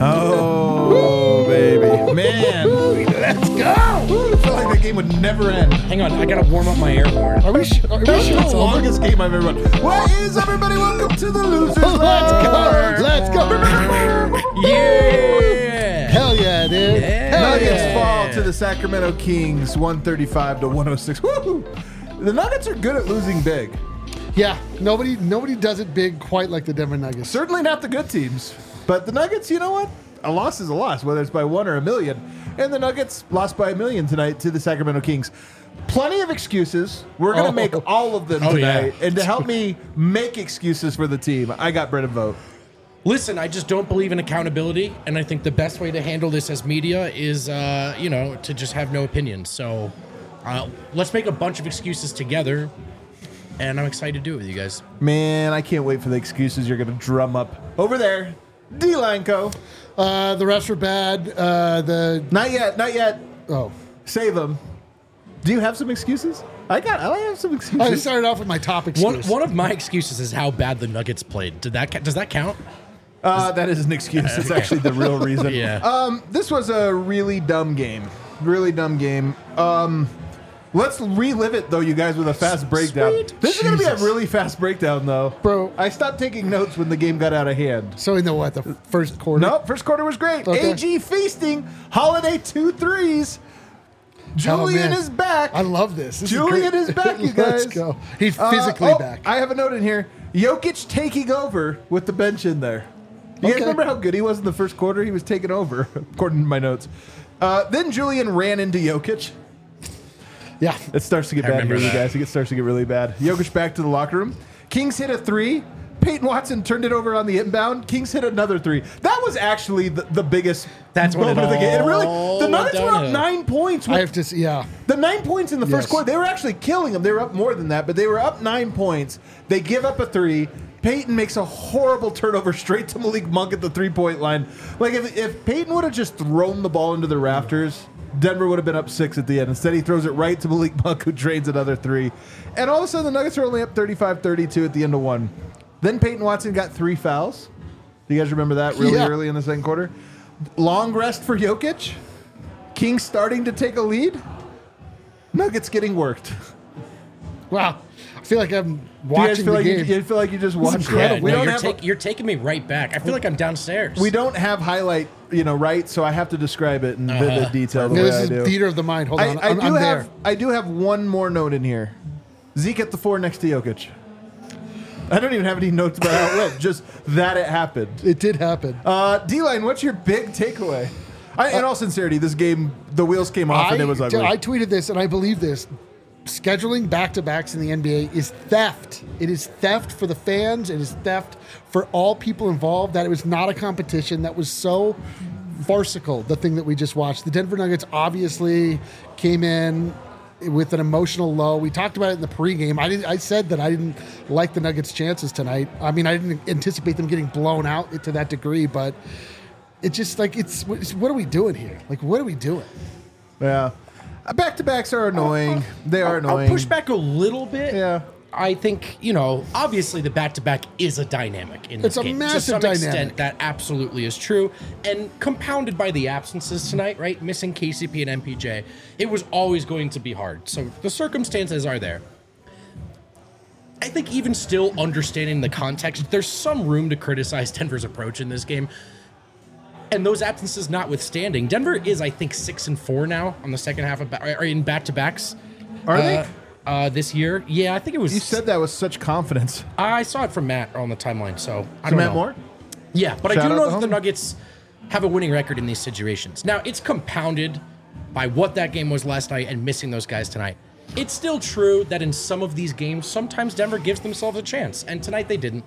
Oh, baby. Man. Let's go. I felt like that game would never end. Hang on, I gotta warm up my air horn. Are we sure That's it's the over? longest game I've ever run. What is everybody? Welcome to the Losers Let's Lounge. go. Let's go. Yeah! Hell yeah, dude. Yeah. Hell Nuggets yeah. fall to the Sacramento Kings, 135-106. Woo! The Nuggets are good at losing big. Yeah, nobody does it big quite like the Denver Nuggets. Certainly not the good teams. But the Nuggets, you know what? A loss is a loss, whether it's by 1 or a million. And the Nuggets lost by 1 million tonight to the Sacramento Kings. Plenty of excuses. We're going to make all of them tonight. yeah. And to help me make excuses for the team, I got Brennan Vogt. Listen, I just don't believe in accountability, and I think the best way to handle this as media is, to just have no opinions. So let's make a bunch of excuses together, and I'm excited to do it with you guys. Man, I can't wait for the excuses you're going to drum up over there. D-Line Co. The refs were bad. Not yet. Oh. Save them. Do you have some excuses? I have some excuses. I started off with my top excuse. One of my excuses is how bad the Nuggets played. Does that count? That is an excuse. It's actually the real reason. Yeah. This was a really dumb game. Let's relive it, though, you guys, with a fast breakdown. Sweet This is going to be a Jesus. really fast breakdown, though. Bro. I stopped taking notes when the game got out of hand. So in the first quarter? Nope, first quarter was great. Okay. AG feasting. Holiday 2 threes. Julian man. is back. I love this. This Julian is is back, you guys. Let's go. He's physically back. I have a note in here. Jokic taking over with the bench in there. You guys Okay. remember how good he was in the first quarter? He was taking over, according to my notes. Then Julian ran into Jokic. Yeah. It starts to get bad remember here, you that. guys. It starts to get really bad. Jokic back to the locker room. Kings hit a 3. Peyton Watson turned it over on the inbound. Kings hit another 3. That was actually the biggest That's when moment it of the game. It really, all the Nuggets went were up downhill. 9 points. I have to see. Yeah. The 9 points in the first Yes. quarter, they were actually killing them. They were up more than that, but they were up 9 points. They give up a 3. Peyton makes a horrible turnover straight to Malik Monk at the 3-point line. Like, if Peyton would have just thrown the ball into the rafters, Denver would have been up 6 at the end. Instead, he throws it right to Malik Monk, who drains another 3. And all of a sudden, the Nuggets are only up 35-32 at the end of 1. Then Peyton Watson got 3 fouls. Do you guys remember that really Yeah. early in the second quarter? Long rest for Jokic. Kings starting to take a lead. Nuggets getting worked. Wow. I feel like I'm Do you guys watching feel the like game. you feel like you just watched incredible. it? We No, don't you're taking me right back. I feel like I'm downstairs. we don't have highlight, right? So I have to describe it in vivid detail. The No, way this I is do. theater of the mind. Hold on. I'm do there. have I do have one more note in here. Zeke at the 4 next to Jokic. I don't even have any notes about how it went. Just that it happened. It did happen. D-Line, what's your big takeaway? In all sincerity, this game, the wheels came off and it was ugly. I tweeted this, and I believe this. Scheduling back-to-backs in the NBA is theft. It is theft for the fans. It is theft for all people involved. That it was not a competition. That was so farcical, the thing that we just watched. The Denver Nuggets obviously came in with an emotional low. We talked about it in the pregame. I said that I didn't like the Nuggets' chances tonight. I mean, I didn't anticipate them getting blown out to that degree, but it's just like, it's what are we doing here? Like, what are we doing? Yeah. Back-to-backs are annoying. They are annoying. I'll push back a little bit. Yeah. I think, obviously the back-to-back is a dynamic in this It's a game. massive to some dynamic. extent, that absolutely is true. And compounded by the absences tonight, right? Missing KCP and MPJ, it was always going to be hard. So the circumstances are there. I think even still understanding the context, there's some room to criticize Denver's approach in this game. And those absences notwithstanding, Denver is, I think, 6-4 now on the second half of in back-to-backs. Are they? This year? Yeah, I think it was. You said that with such confidence. I saw it from Matt on the timeline, so I So don't Matt know. Moore? Yeah, but Shout I do out know to that the home. Nuggets have a winning record in these situations. Now, it's compounded by what that game was last night and missing those guys tonight. It's still true that in some of these games, sometimes Denver gives themselves a chance, and tonight they didn't.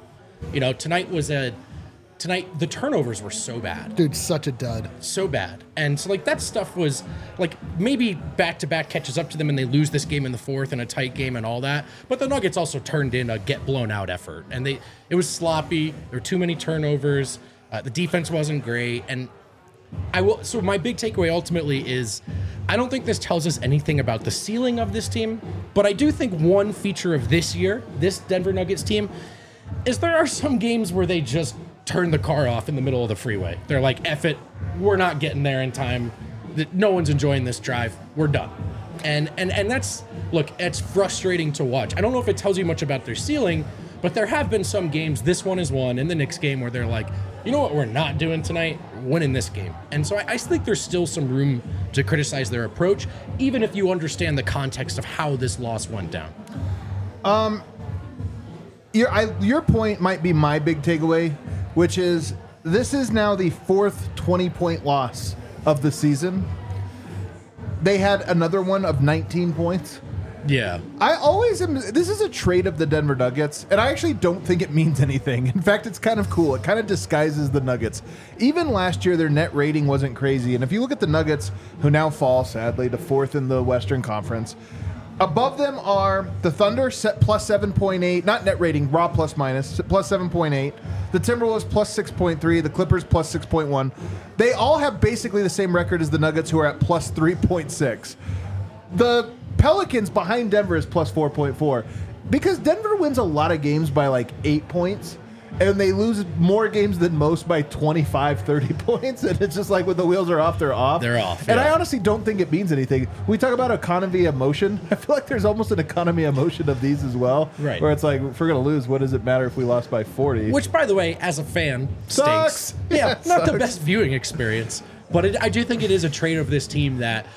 Tonight the turnovers were so bad. Dude, such a dud. So bad. And so, that stuff was, maybe back-to-back catches up to them and they lose this game in the fourth in a tight game and all that. But the Nuggets also turned in a get-blown-out effort. And it was sloppy. There were too many turnovers. The defense wasn't great. And so my big takeaway ultimately is I don't think this tells us anything about the ceiling of this team. But I do think one feature of this year, this Denver Nuggets team, is there are some games where they just turn the car off in the middle of the freeway. They're like, F it, we're not getting there in time. No one's enjoying this drive. We're done. And that's, look, it's frustrating to watch. I don't know if it tells you much about their ceiling, but there have been some games, this one is one, and the Knicks game, where they're like, you know what we're not doing tonight? Winning this game. And so I think there's still some room to criticize their approach, even if you understand the context of how this loss went down. Your point might be my big takeaway, which is this is now the fourth 20-point loss of the season. They had another one of 19 points. Yeah. This is a trait of the Denver Nuggets, and I actually don't think it means anything. In fact, it's kind of cool. It kind of disguises the Nuggets. Even last year, their net rating wasn't crazy. And if you look at the Nuggets, who now fall, sadly, to fourth in the Western Conference, above them are the Thunder, set plus 7.8, not net rating, raw plus minus, plus 7.8. The Timberwolves plus 6.3, the Clippers plus 6.1. They all have basically the same record as the Nuggets, who are at plus 3.6. The Pelicans behind Denver is plus 4.4 because Denver wins a lot of games by like 8 points, and they lose more games than most by 25, 30 points. And it's just like when the wheels are off, they're off. They're off. And yeah. I honestly don't think it means anything. We talk about economy of motion. I feel like there's almost an economy of motion of these as well. Right. Where it's like, if we're going to lose, what does it matter if we lost by 40? Which, by the way, as a fan, Sucks. stinks. Yeah, not Sucks. the best viewing experience. But I do think it is a trait of this team that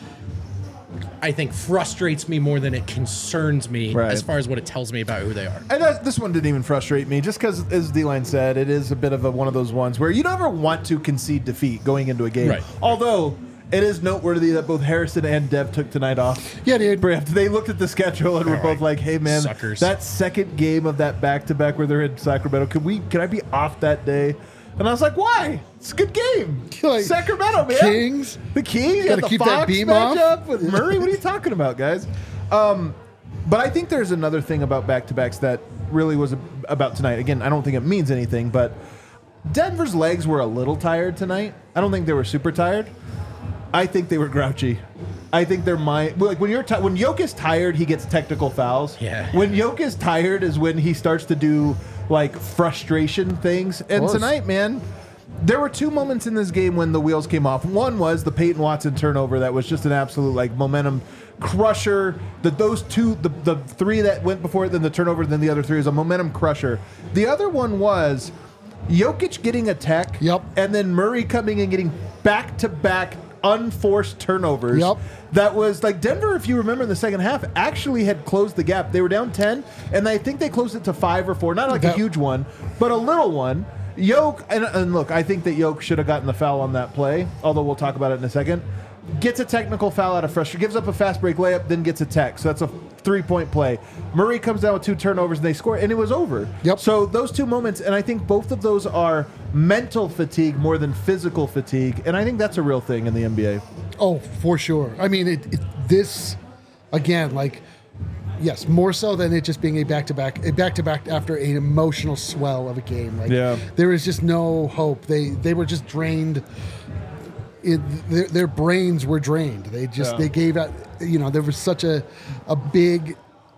I think frustrates me more than it concerns me as far as what it tells me about who they are. And this one didn't even frustrate me, just because, as D-Line said, it is a bit of one of those ones where you never want to concede defeat going into a game. Right. Although, it is noteworthy that both Harrison and Dev took tonight off. Yeah, dude. They looked at the schedule and were both like, hey, man, Suckers. that second game of that back-to-back where they're in Sacramento, can I be off that day? And I was like, why? It's a good game. Like, Sacramento, man. Kings. The Kings. Gotta The keep Fox that beam off. matchup with Murray. What are you talking about, guys? But I think there's another thing about back-to-backs that really was about tonight. Again, I don't think it means anything, but Denver's legs were a little tired tonight. I don't think they were super tired. I think they were grouchy. I think their mind, like when Jokic is tired, he gets technical fouls. Yeah. When Jokic is tired is when he starts to do like frustration things. And tonight, man, there were two moments in this game when the wheels came off. One was the Peyton Watson turnover that was just an absolute like momentum crusher. Those two, the three that went before it, then the turnover, then the other three was a momentum crusher. The other one was Jokic getting a tech, and then Murray coming and getting back-to-back unforced turnovers. That was like Denver, if you remember in the second half, actually had closed the gap. They were down 10, and I think they closed it to 5 or 4. Not like a huge one, but a little one. Yoke, and look, I think that Yoke should have gotten the foul on that play, although we'll talk about it in a second. Gets a technical foul out of frustration, gives up a fast break layup, then gets a tech. So that's a 3-point play. Murray comes down with 2 turnovers, and they score, and it was over. So those two moments, and I think both of those are mental fatigue more than physical fatigue, and I think that's a real thing in the NBA. Oh, for sure. I mean, this, again, like, yes, more so than it just being a back-to-back after an emotional swell of a game. Like, there was just no hope. They were just drained. Their brains were drained. They gave out. There was such a big.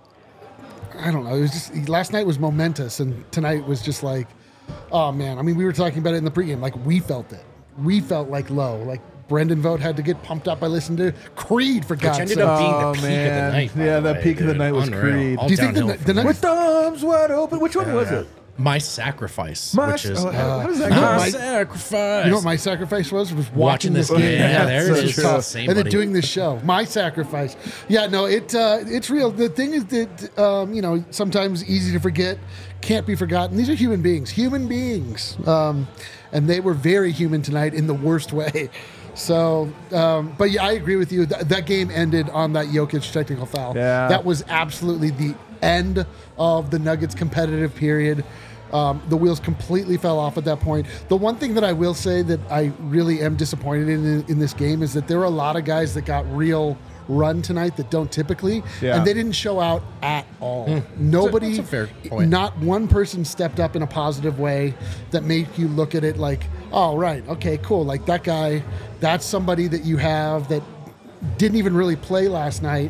I don't know. It was just last night was momentous, and tonight was just like, oh man. I mean, we were talking about it in the pregame. Like we felt it. We felt like low. Like Brendan Vogt had to get pumped up by listening to Creed for God's sake. Which ended up being the peak of the night. Yeah, the peak of the night was Creed. All Do you think the Nuggets? With the arms wide open. Which one was it? My Sacrifice, What which is does that My go? Sacrifice. You know what my sacrifice was? Was Watching this game. Yeah, there it is. true. Same, and then buddy. doing this show. My sacrifice. Yeah, no, it's real. The thing is that sometimes easy to forget, can't be forgotten. These are human beings, and they were very human tonight in the worst way. So, but yeah, I agree with you. That game ended on that Jokic technical foul. Yeah. That was absolutely the end of the Nuggets' competitive period. The wheels completely fell off at that point. The one thing that I will say that I really am disappointed in this game is that there were a lot of guys that got real run tonight that don't typically, and they didn't show out at all. Nobody, That's a fair point. Not one person stepped up in a positive way that made you look at it like, oh, right, okay, cool. Like that guy, that's somebody that you have that didn't even really play last night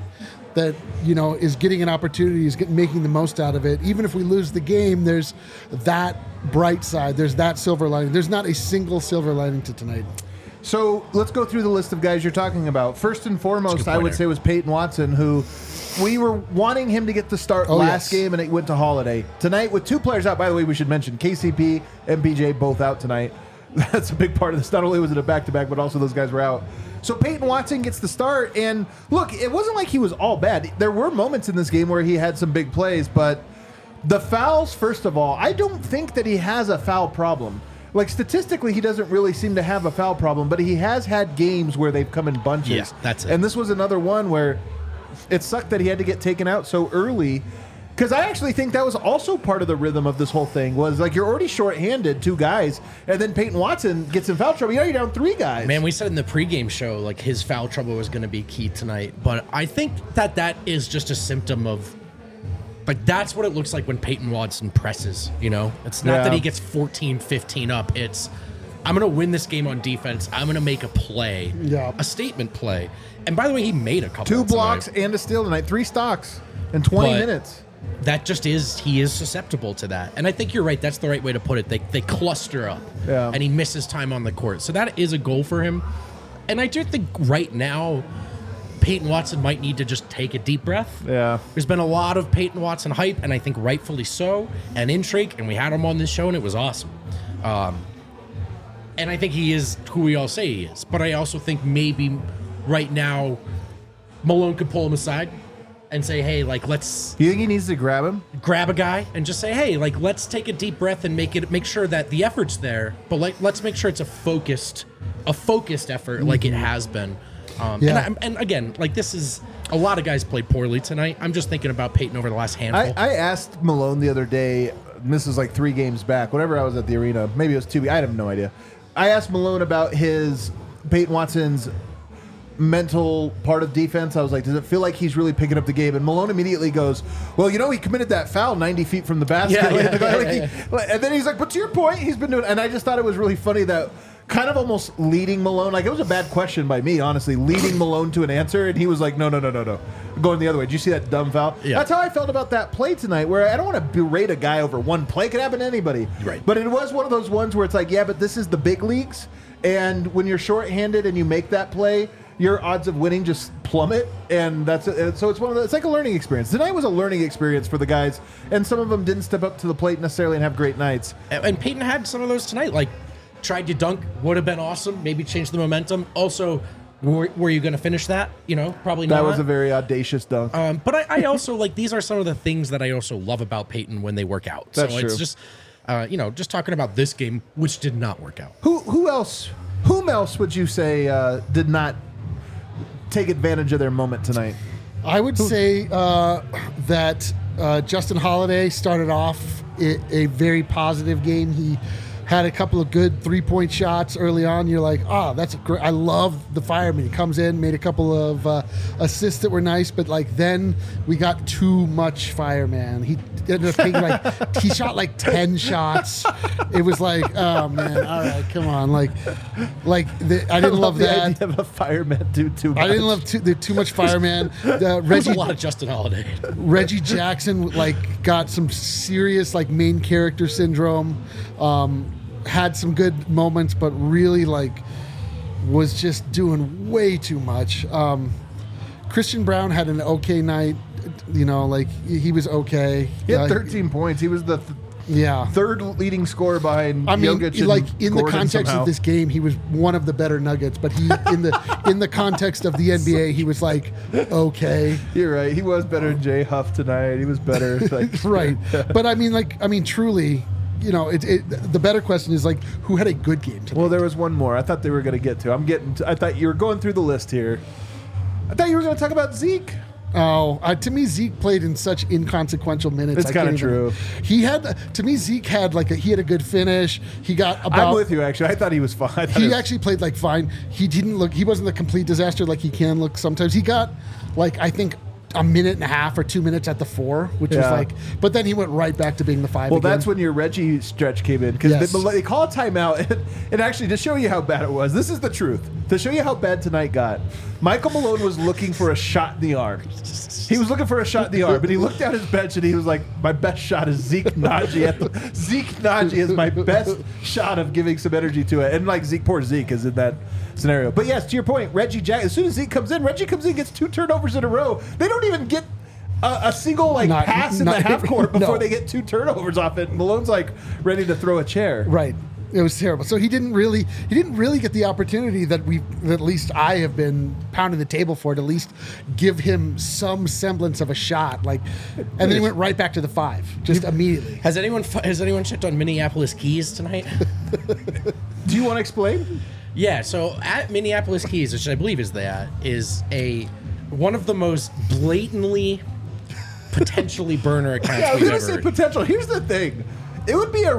that is getting an opportunity, is making the most out of it. Even if we lose the game, there's that bright side. There's that silver lining. There's not a single silver lining to tonight. So let's go through the list of guys you're talking about. First and foremost, I would say was Peyton Watson, who we were wanting him to get the start last game, and it went to Holiday. Tonight, with 2 players out, by the way, we should mention KCP and MPJ both out tonight. That's a big part of this. Not only was it a back-to-back, but also those guys were out. So Peyton Watson gets the start, and look, it wasn't like he was all bad. There were moments in this game where he had some big plays, but the fouls, first of all, I don't think that he has a foul problem. Like, statistically, he doesn't really seem to have a foul problem, but he has had games where they've come in bunches. Yeah, that's it. And this was another one where it sucked that he had to get taken out so early, because I actually think that was also part of the rhythm of this whole thing, was like, you're already shorthanded 2 guys, and then Peyton Watson gets in foul trouble. You're down 3 guys. Man, we said in the pregame show, like, his foul trouble was going to be key tonight, but I think that is just a symptom of, like, that's what it looks like when Peyton Watson presses, It's not that he gets 14, 15 up. It's, I'm going to win this game on defense. I'm going to make a play, a statement play. And by the way, he made a couple. 2 blocks and a steal tonight, 3 stocks in 20 minutes. That just he is susceptible to that. And I think you're right. That's the right way to put it. They cluster up, and he misses time on the court. So that is a goal for him. And I do think right now, Peyton Watson might need to just take a deep breath. Yeah. There's been a lot of Peyton Watson hype, and I think rightfully so, and intrigue, and we had him on this show, and it was awesome. And I think he is who we all say he is. But I also think maybe right now, Malone could pull him aside and say, hey, like, let's... You think he needs to grab him? Grab a guy and just say, hey, like, let's take a deep breath and make sure that the effort's there, but let's make sure it's a focused effort like it has been. And again, like, this is a lot of guys played poorly tonight. I'm just thinking about Peyton over the last handful. I asked Malone the other day, and this is like 3 games back, whenever I was at the arena, maybe it was 2, I have no idea. I asked Malone about Peyton Watson's mental part of defense. I was like, does it feel like he's really picking up the game? And Malone immediately goes, well, he committed that foul 90 feet from the basket. And then he's like, but to your point, he's been doing, and I just thought it was really funny that kind of almost leading Malone, like, it was a bad question by me, honestly, leading Malone to an answer, and he was like, no, going the other way. Did you see that dumb foul? Yeah. That's how I felt about that play tonight, where I don't want to berate a guy over one play. It could happen to anybody. Right. But it was one of those ones where it's like, yeah, but this is the big leagues, and when you're shorthanded and you make that play, your odds of winning just plummet, and that's it. So it's like a learning experience. Tonight was a learning experience for the guys, and some of them didn't step up to the plate necessarily and have great nights. And Peyton had some of those tonight, like, tried to dunk, would have been awesome, maybe change the momentum. Also, were you going to finish that? Probably not. That was a very audacious dunk. But I also, like, these are some of the things that I also love about Peyton when they work out. That's so it's true. just, just talking about this game, which did not work out. Whom else would you say did not take advantage of their moment tonight? I would say that Justin Holiday started off a very positive game. He had a couple of good 3-point shots early on. You're like, that's great. I love the fireman. He comes in, made a couple of assists that were nice, but like then we got too much fireman. He ended up taking he shot like 10 shots. It was like, oh man, all right, come on. I didn't love the that. idea of a fireman do too much. I didn't love too much fireman. There's a lot of Justin Holiday. Reggie Jackson got some serious main character syndrome. Had some good moments, but really was just doing way too much. Christian Brown had an okay night. He was okay. He had 13 points. He was the third leading scorer behind Jokic and in Gordon the context somehow. of this game, he was one of the better Nuggets. But he in the context of the NBA, he was okay. You're right. He was better than Jay Huff tonight. He was better. Right. But truly. The better question is who had a good game tonight? Well, there was one more. I thought they were going to get to. I thought you were going through the list here. I thought you were going to talk about Zeke. Oh, to me, Zeke played in such inconsequential minutes. It's kind of true. Zeke had he had a good finish. He got about. I'm with you, actually. I thought he was fine. He actually played fine. He wasn't the complete disaster like he can look sometimes. He got I think a minute and a half or 2 minutes at the 4, which was Yeah. like, but then he went right back to being the 5 Well, again. that's when your Reggie stretch came in because Yes. they call a timeout. And actually, to show you how bad it was, this is the truth. To show you how bad tonight got, Michael Malone was looking for a shot in the arm. He was looking for a shot in the arm, but he looked down his bench and he was like, "My best shot is Zeke Naji. Zeke Naji is my best shot of giving some energy to it." And like poor Zeke is in that scenario. But yes, to your point, Reggie Jackson. As soon as Zeke comes in, Reggie comes in, gets 2 turnovers in a row. They don't even get a single pass in the half court before no. they get 2 turnovers off it. Malone's like ready to throw a chair. Right. It was terrible. So he didn't really get the opportunity that at least I have been pounding the table for, to at least give him some semblance of a shot. And then he went right back to the 5, just immediately. Has anyone checked on Minneapolis Keys tonight? Do you want to explain? Yeah, so at Minneapolis Keys, which I believe is one of the most blatantly potentially burner accounts Yeah, I was we've going to say ever. potential. Here's the thing. It would be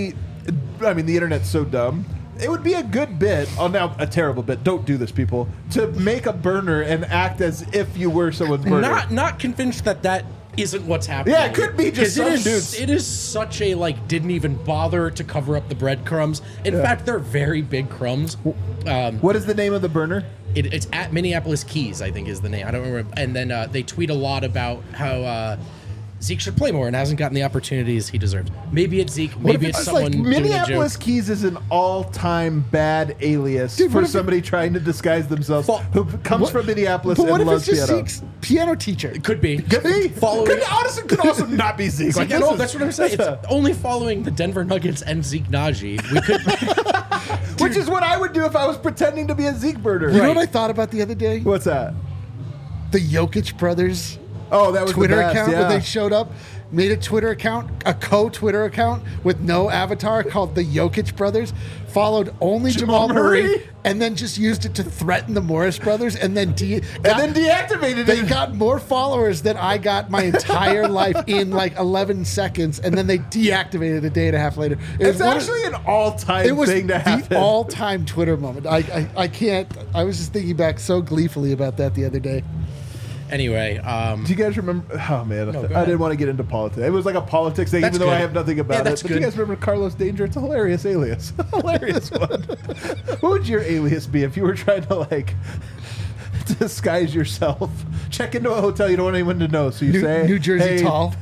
the internet's so dumb. It would be a good bit, now a terrible bit, don't do this, people, to make a burner and act as if you were someone's burner. Not convinced that isn't what's happening. Yeah, it could be just 'Cause some it is, dudes. It is such a didn't even bother to cover up the breadcrumbs. In fact, they're very big crumbs. What is the name of the burner? It's at Minneapolis Keys, I think is the name. I don't remember. And then they tweet a lot about how Zeke should play more and hasn't gotten the opportunities he deserves. Maybe it's Zeke. Maybe it's someone doing a Minneapolis joke. Keys is an all-time bad alias Dude, for what if somebody trying to disguise themselves who comes from Minneapolis But what and if it's loves just piano. Zeke's piano teacher? Could be. Could be. Following. Could also not be Zeke. Zeke, this no, is- that's what I'm saying. It's only following the Denver Nuggets and Zeke Naji. We could. Which is what I would do if I was pretending to be a Zeke burner. You know Right. what I thought about the other day? What's that? The Jokic brothers Oh, that was Twitter the best, account yeah. when they showed up, made a Twitter account, a co-Twitter account with no avatar called the Jokic brothers, followed only Jamal Murray, Murray? and then just used it to threaten the Morris brothers, and then deactivated they it. got more followers than I got my entire life in 11 seconds, and then they deactivated a day and a half later. It's one of- actually an all-time was thing to happen. the all-time Twitter moment. I can't. I was just thinking back so gleefully about that the other day. Anyway, Do you guys remember? Oh man, go I ahead. didn't want to get into politics. It was like a politics thing, That's even though I good. have nothing about Yeah, it. that's But do you good. guys remember Carlos Danger? It's a hilarious alias, hilarious one. What would your alias be if you were trying to disguise yourself? Check into a hotel you don't want anyone to know, so you say New Jersey hey, tall.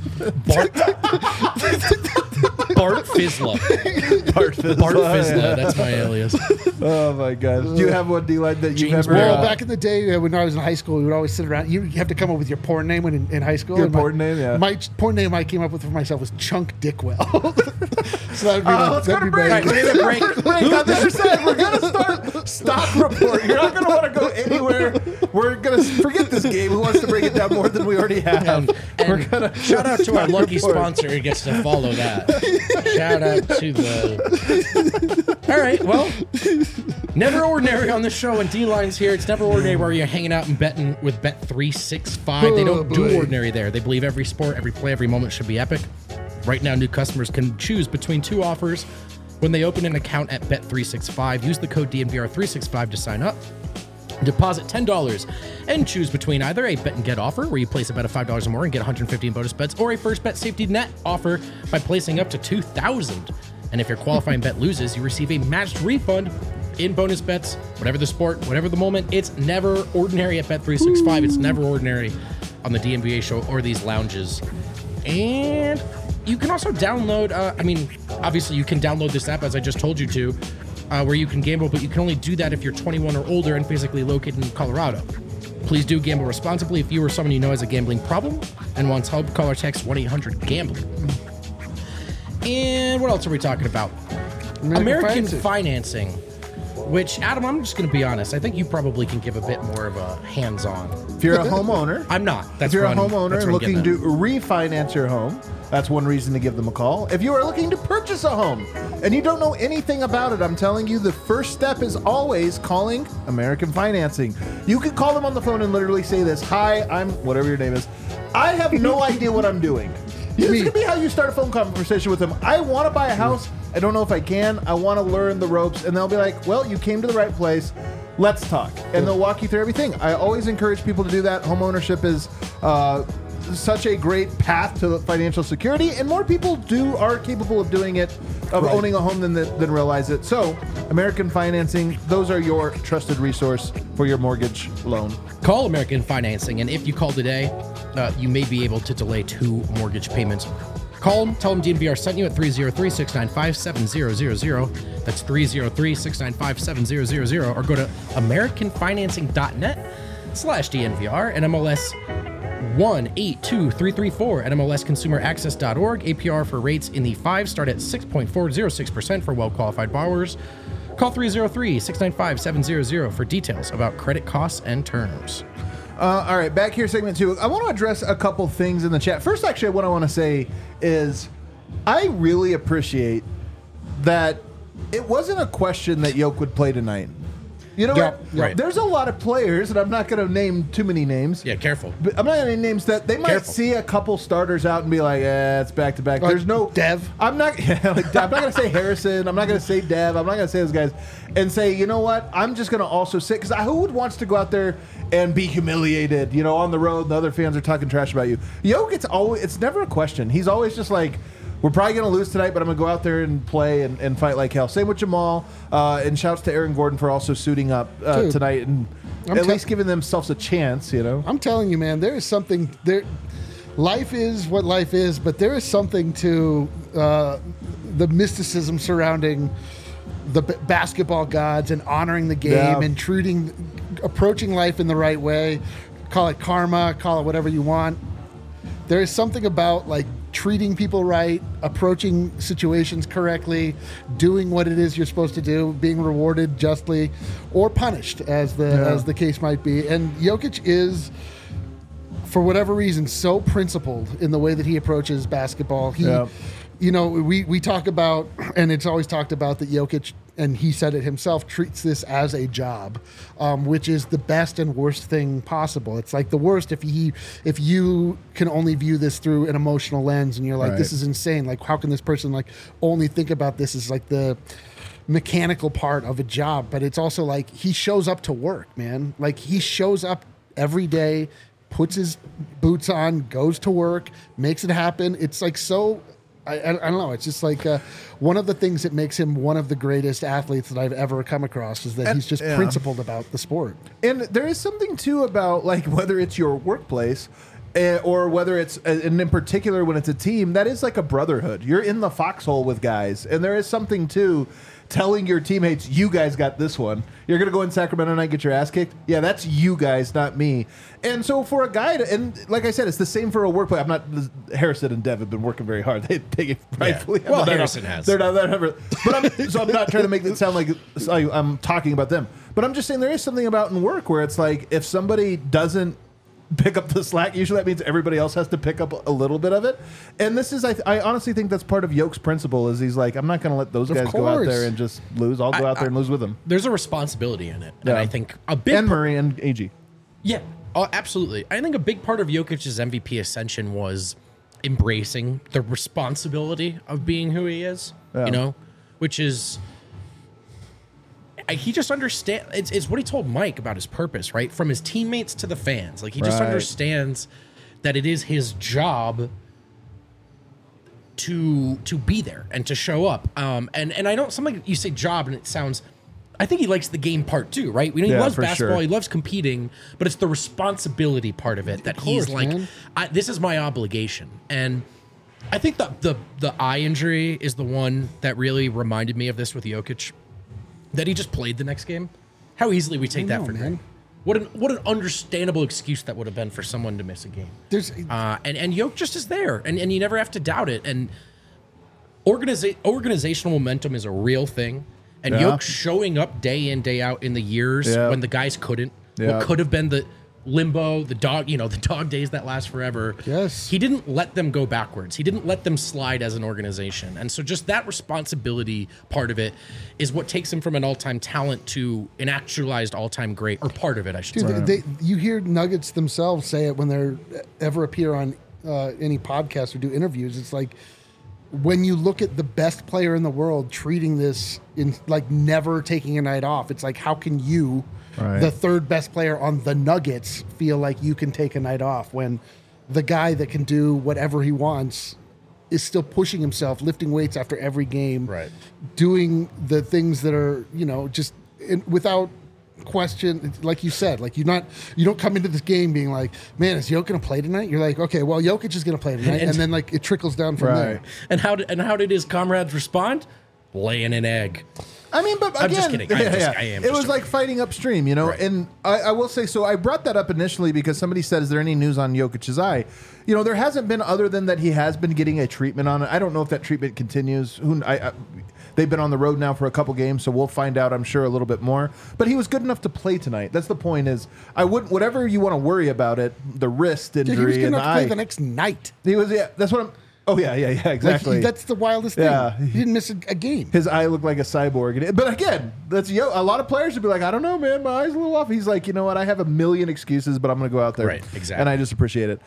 Bart Fizzler. Bart Fizzler. Bart Fizzler. That's my alias. Oh my God! Do you have one, D-Line, that you've James ever? Well, Yeah. back in the day when I was in high school, we would always sit around. You have to come up with your porn name when in high school. Your And my- porn name, yeah. My porn name I came up with for myself was Chunk Dickwell. So that would be Let's go to break. All right, we're gonna break. Break. On the other side, we're gonna start stop report. You're not gonna want to go anywhere. We're gonna forget this game. Who wants to break it down more than we already have? And shout out to our stop lucky report. sponsor who gets to follow that. Shout out to the. All right, well, never ordinary on the show, and D-Line's here. It's never ordinary where you're hanging out and betting with Bet365. They don't do boy. ordinary there. They believe every sport, every play, every moment should be epic. Right now, new customers can choose between 2 offers when they open an account at Bet365. Use the code DNVR365 to sign up. Deposit $10 and choose between either a bet and get offer where you place a bet of $5 or more and get 150 in bonus bets, or a first bet safety net offer by placing up to $2,000. And if your qualifying bet loses, you receive a matched refund in bonus bets, whatever the sport, whatever the moment. It's never ordinary at Bet365. It's never ordinary on the DNVA show or these lounges. And you can also download, obviously you can download this app as I just told you to, where you can gamble, but you can only do that if you're 21 or older and physically located in Colorado. Please do gamble responsibly. If you or someone you know has a gambling problem and wants help, call or text 1-800-GAMBLING. And what else are we talking about? American financing, which, Adam, I'm just going to be honest. I think you probably can give a bit more of a hands-on. If you're a homeowner, I'm not. if you're a what I'm- homeowner that's and what I'm looking getting to refinance your home, that's one reason to give them a call. If you are looking to purchase a home and you don't know anything about it, I'm telling you, the first step is always calling American Financing. You can call them on the phone and literally say this: "Hi, I'm whatever your name is. I have no idea what I'm doing." This could be how you start a phone conversation with them. I want to buy a house. I don't know if I can. I want to learn the ropes. And they'll be like, "Well, you came to the right place. let's talk. And they'll walk you through everything. I always encourage people to do that. Home ownership is such a great path to financial security, and more people are capable of doing it, of owning a home than realize it. So, American Financing, those are your trusted resource for your mortgage loan. Call American Financing, and if you call today, you may be able to delay 2 mortgage payments. Call them, tell them DNVR sent you at 303-695-7000. That's 303-695-7000, or go to americanfinancing.net/DNVR and MLS 182334 at MLSConsumerAccess.org. APR for rates in the 5 start at 6.406% for well-qualified borrowers. Call 303-695-7000 for details about credit costs and terms. All right, back here, segment 2. I want to address a couple things in the chat. First, actually, what I want to say is I really appreciate that it wasn't a question that Yoke would play tonight. You know what? Right. There's a lot of players, and I'm not going to name too many names. Yeah, careful. But I'm not going to name names that they might see a couple starters out and be like, it's back to back. There's no Dev. I'm not going to say Harrison. I'm not going to say Dev. I'm not going to say those guys and say, you know what? I'm just going to also sit, because who wants to go out there and be humiliated, on the road, and the other fans are talking trash about you. Yoke, it's never a question. He's always just like, we're probably going to lose tonight, but I'm going to go out there and play and fight like hell. Same with Jamal. And shouts to Aaron Gordon for also suiting up tonight and at least giving themselves a chance, I'm telling you, man, there is something there. Life is what life is, but there is something to the mysticism surrounding the basketball gods and honoring the game and approaching life in the right way. Call it karma, call it whatever you want. There is something about treating people right, approaching situations correctly, doing what it is you're supposed to do, being rewarded justly or punished as the case might be. And Jokic is, for whatever reason, so principled in the way that he approaches basketball. We talk about, and it's always talked about, that Jokic, and he said it himself, treats this as a job, which is the best and worst thing possible. It's like the worst if you can only view this through an emotional lens, and you're like, this is insane. Like, how can this person only think about this as the mechanical part of a job? But it's also he shows up to work, man. He shows up every day, puts his boots on, goes to work, makes it happen. It's so. I don't know. It's just one of the things that makes him one of the greatest athletes that I've ever come across is that he's just principled about the sport. And there is something too about whether it's your workplace or whether it's, and in particular when it's a team, that is like a brotherhood. You're in the foxhole with guys, and there is something to telling your teammates, you guys got this one. You're going to go in Sacramento tonight and get your ass kicked? Yeah, that's you guys, not me. And so for a guy and like I said, it's the same for a workplace. I'm not, Harrison and Dev have been working very hard. They take it rightfully. Yeah. Well, Harrison has. They're not, but I'm not trying to make it sound like I'm talking about them. But I'm just saying there is something about in work where it's if somebody doesn't pick up the slack, usually that means everybody else has to pick up a little bit of it. And this is, I honestly think that's part of Yoke's principle is he's I'm not going to let those guys go out there and just lose. I'll go out there and lose with them. There's a responsibility in it. And I think a big and Murray and AG. Yeah, absolutely. I think a big part of Jokic's MVP ascension was embracing the responsibility of being who he is, which is, he just understands. It's what he told Mike about his purpose, right? From his teammates to the fans. He just understands that it is his job to be there and to show up. And I know something you say job and it sounds, I think he likes the game part too, right? He loves basketball, he loves competing, but it's the responsibility part of it that he's this is my obligation. And I think the eye injury is the one that really reminded me of this with Jokic. That he just played the next game. How easily we take that for granted. What an understandable excuse that would have been for someone to miss a game. And Yoke just is there, and you never have to doubt it. And organizational momentum is a real thing. And Yoke showing up day in, day out in the years when the guys couldn't. What could have been the limbo, the dog days that last forever. Yes. He didn't let them go backwards. He didn't let them slide as an organization. And so just that responsibility part of it is what takes him from an all-time talent to an actualized all-time great, or part of it, I should say. You hear Nuggets themselves say it when they ever appear on any podcast or do interviews. It's when you look at the best player in the world treating this in like never taking a night off, it's like, how can you, Right. the third best player on the Nuggets, feel like you can take a night off when the guy that can do whatever he wants is still pushing himself, lifting weights after every game, Right. doing the things that are, just without question, like you said, like you don't come into this game being like, man, is Jokic gonna play tonight? You're like, okay, well, Jokic is gonna play tonight, and then like it trickles down from there. And how did his comrades respond? Laying an egg. I mean, but again, I'm just kidding. I am it just was like fighting upstream, Right. And I will say, so I brought that up initially because somebody said, "Is there any news on Jokic's eye?" There hasn't been, other than that he has been getting a treatment on it. I don't know if that treatment continues. They've been on the road now for a couple games, so we'll find out, I'm sure, a little bit more. But he was good enough to play tonight. That's the point. Is I wouldn't, whatever you want to worry about it, the wrist Dude, injury he was good and the enough to play eye. the next night. He was, yeah. That's what I'm. Oh yeah, exactly. Like, that's the wildest thing. Yeah. He didn't miss a game. His eye looked like a cyborg. But again, that's a lot of players would be like, I don't know, man, my eye's a little off. He's like, you know what? I have a million excuses, but I'm going to go out there. Right, exactly. And I just appreciate it.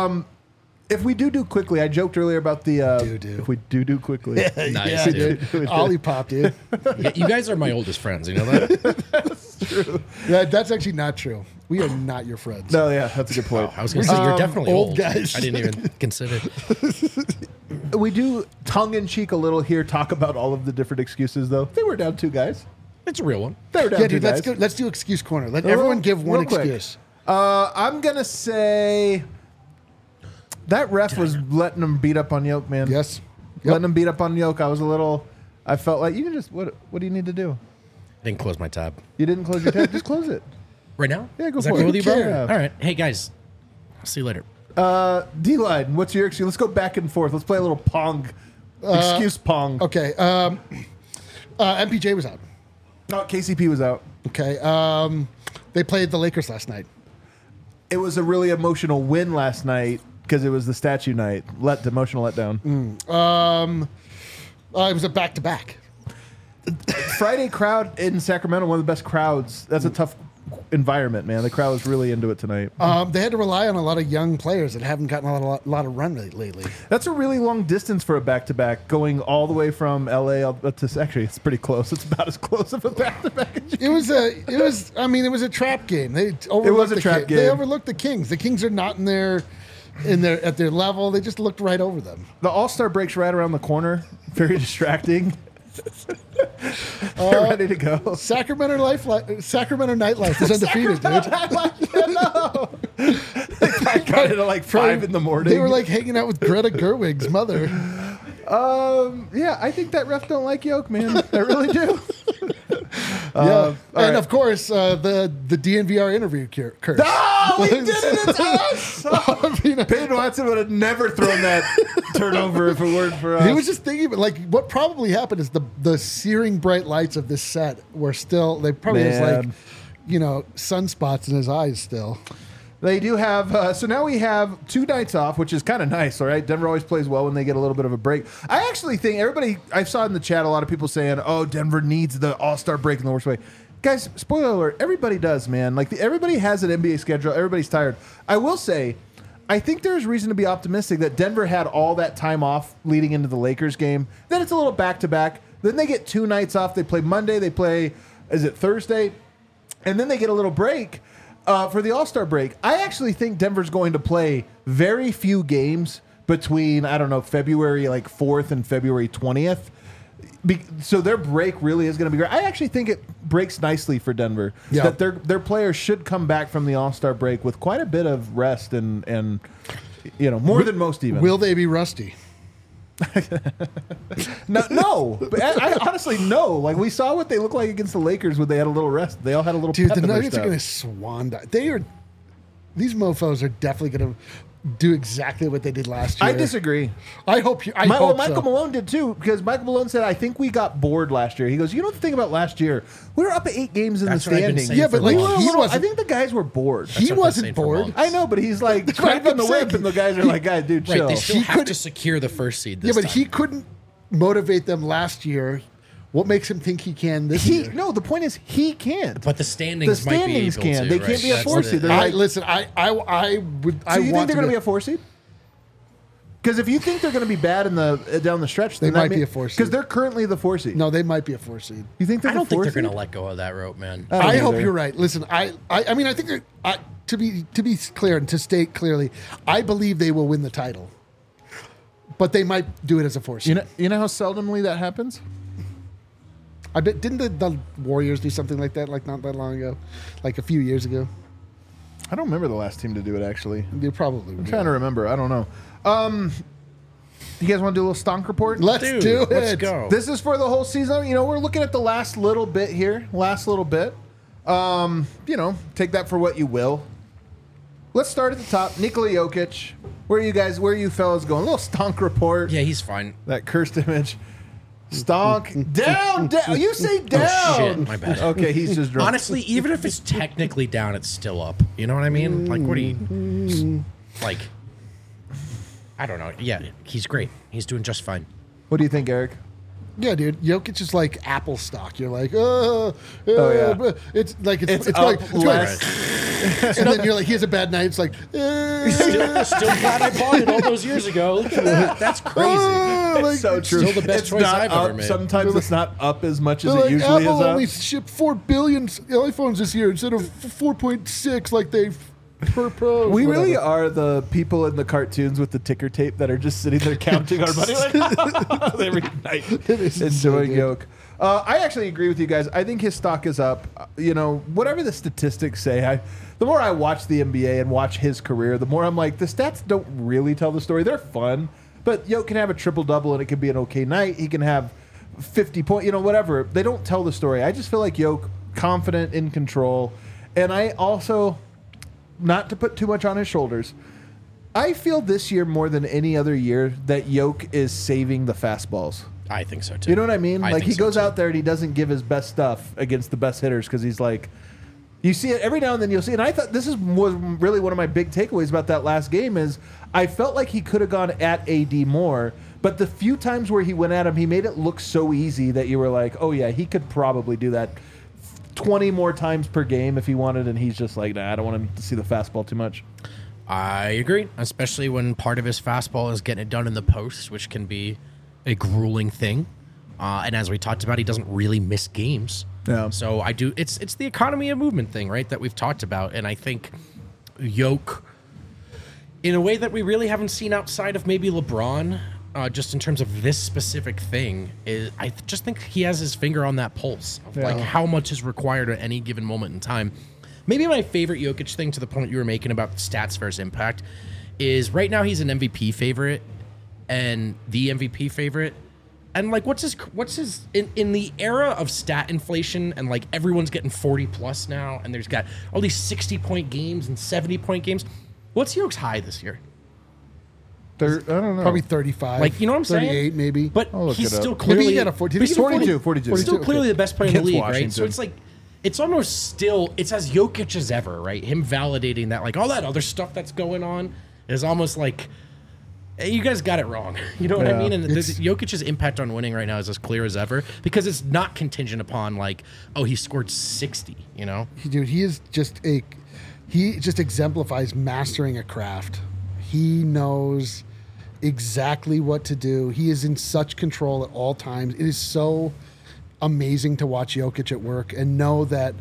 If we do quickly, I joked earlier about the. If we do quickly. Nice, Yeah, dude. dude. Olipop, dude. Yeah, you guys are my oldest friends. You know that? Yeah, that's actually not true. We are not your friends. No, yeah, that's a good point. I was going to say you're definitely old old. guys. I didn't even consider. We do tongue in cheek a little here talk about all of the different excuses, though. They were down 2 guys. It's a real one. They were down Yeah, 2 dude, guys. let's do excuse corner. Let everyone give one real quick. excuse. I'm going to say that ref was letting him beat up on Yoke, man. Yes. Letting him beat up on Yoke. I felt like you can just, what do you need to do? I didn't close my tab. You didn't close your tab. Just close it. Right now? Yeah, go Is for that it. cool with you, bro? Yeah. All right. Hey, guys. I'll see you later. D-Line, what's your excuse? Let's go back and forth. Let's play a little pong. Excuse pong. Okay. MPJ was out. Oh, KCP was out. Okay. They played the Lakers last night. It was a really emotional win last night because it was the statue night. Emotional letdown. It was a back-to-back. Friday crowd in Sacramento, one of the best crowds. That's a tough environment, man. The crowd was really into it tonight. They had to rely on a lot of young players that haven't gotten a lot of run lately. That's a really long distance for a back-to-back, going all the way from LA to actually it's pretty close. It's about as close of a back-to-back as you It was a trap game. They overlooked It was a the trap They game. overlooked the Kings. The Kings are not at their level. They just looked right over them. The All-Star break's right around the corner. Very distracting. They're ready to go. Sacramento nightlife is undefeated, dude. I got it at like 5 in the morning. They were like hanging out with Greta Gerwig's mother. Yeah, I think that ref don't like Yoke, man. I really do. Yeah, and right. of course the DNVR interview curse. Oh, we did it! It's us! Peyton Watson would have never thrown that turnover if it weren't for us. He was just thinking, like, what probably happened is the searing bright lights of this set were still. They probably has like, sunspots in his eyes still. They do have, so now we have 2 nights off, which is kind of nice, all right? Denver always plays well when they get a little bit of a break. I actually think I saw in the chat a lot of people saying, oh, Denver needs the All-Star break in the worst way. Guys, spoiler alert, everybody does, man. Like, everybody has an NBA schedule. Everybody's tired. I will say, I think there's reason to be optimistic that Denver had all that time off leading into the Lakers game. Then it's a little back-to-back. Then they get 2 nights off. They play Monday. They play, is it Thursday? And then they get a little break. For the All-Star break, I actually think Denver's going to play very few games between, I don't know, February 4th and February 20th. So their break really is going to be great. I actually think it breaks nicely for Denver. Yeah. That their players should come back from the All-Star break with quite a bit of rest and more than most even. Will they be rusty? No. But I honestly no. Like we saw what they look like against the Lakers when they had a little rest. They all had a little. Dude, pep the in their Nuggets are step. going to swan dive. These mofos are definitely going to do exactly what they did last year. I disagree. I hope so. Michael Malone did too, because Michael Malone said, I think we got bored last year. He goes, the thing about last year, we were up 8 games in That's the what I've been standings. saying Yeah, for but like, like, he I wasn't. think the guys were bored. That's He what I've been wasn't saying for bored. months. I know, but he's like what cracking I'm the whip, saying. and the guys are like, guys, dude, Right, chill. they still He have could- to secure the first seed Yeah, this but time. he couldn't motivate them last year. What makes him think he can this year? No, the point is he can't. But the standings might be able can. to. They right? can't be a That's 4 the- seed. They're I like, listen. I would. so you think they're going to be a 4 seed? Because if you think they're going to be bad in the down the stretch, then They might be a 4 seed. Because they're currently the 4 seed. No, they might be a 4 seed. You think they're I don't the think 4 they're seed? going to let go of that rope, man. don't I hope either. you're right. Listen, I mean, I think to be clear and to state clearly, I believe they will win the title, but they might do it as a 4 seed. You know how seldomly that happens? I bet didn't the Warriors do something like that like not that long ago, like a few years ago? I don't remember the last team to do it, actually. They probably. I'm trying to remember. I don't know. You guys want to do a little stonk report? Let's Dude, do it. let's go. This is for the whole season. You know, we're looking at the last little bit here. Last little bit. You know, take that for what you will. Let's start at the top. Nikola Jokic. Where are you fellas going? A little stonk report. Yeah, he's fine. That cursed image. Stonk. down. You say down. Oh, shit. My bad. Okay, he's just drunk. Honestly, even if it's technically down, it's still up. You know what I mean? Like, what do you... Like, I don't know. Yeah, he's great. He's doing just fine. What do you think, Eric? Yeah, dude. Jokic is like Apple stock. You're like, yeah. It's like it's up like, it's less. like and then you're like, he has a bad night. It's like, Still glad I bought it all those years ago. Look at that. That's crazy. It's so true. still the best It's choice not I've up. ever made. Sometimes it's not up as much as they're it like, usually Apple is only up. shipped 4 billion iPhones this year instead of 4.6 like they per pro. We really whatever. are the people in the cartoons with the ticker tape that are just sitting there counting our money like every night, is enjoying insane, Yoke. I actually agree with you guys. I think his stock is up. You know, whatever the statistics say, the more I watch the NBA and watch his career, the more I'm like, the stats don't really tell the story. They're fun, but Yoke can have a triple-double and it can be an okay night. He can have 50 points, you know, whatever. They don't tell the story. I just feel like Yoke, confident, in control. And I also... not to put too much on his shoulders, I feel this year more than any other year that Yoke is saving the fastballs. I think so, too. You know what I mean? I Like, think he so, goes too. out there and he doesn't give his best stuff against the best hitters because he's like, you see it every now and then you'll see. And I thought was really one of my big takeaways about that last game is I felt like he could have gone at AD more, but the few times where he went at him, he made it look so easy that you were like, oh yeah, he could probably do that 20 more times per game if he wanted, and he's just like, nah, I don't want him to see the fastball too much. I agree, especially when part of his fastball is getting it done in the post, which can be a grueling thing. And as we talked about, he doesn't really miss games. Yeah. So I do. It's the economy of movement thing, right? That we've talked about, and I think Yoke, in a way that we really haven't seen outside of maybe LeBron, just in terms of this specific thing, is I just think he has his finger on that pulse of like how much is required at any given moment in time. Maybe my favorite Jokic thing, to the point you were making about stats versus impact, is right now he's an MVP favorite and the MVP favorite. And like, what's his in the era of stat inflation and like everyone's getting 40 plus now, and there's got all these 60-point games and 70-point games. What's Yoke's high this year? I don't know. Probably 35. Like, you know what I'm saying? 38 maybe. But I'll look he's it up. still Maybe clearly he got a 40. he's Did he still get a 42. He's still clearly the best player in the Against league, right? Washington. So it's like it's almost still it's as Jokic as ever, right? Him validating that, like all that other stuff that's going on is almost like, hey, you guys got it wrong. You know what I Yeah. mean? And Jokic's impact on winning right now is as clear as ever because it's not contingent upon like, oh, he scored 60. You know? Dude, he just exemplifies mastering a craft. He knows exactly what to do. He is in such control at all times. It is so amazing to watch Jokic at work and know that,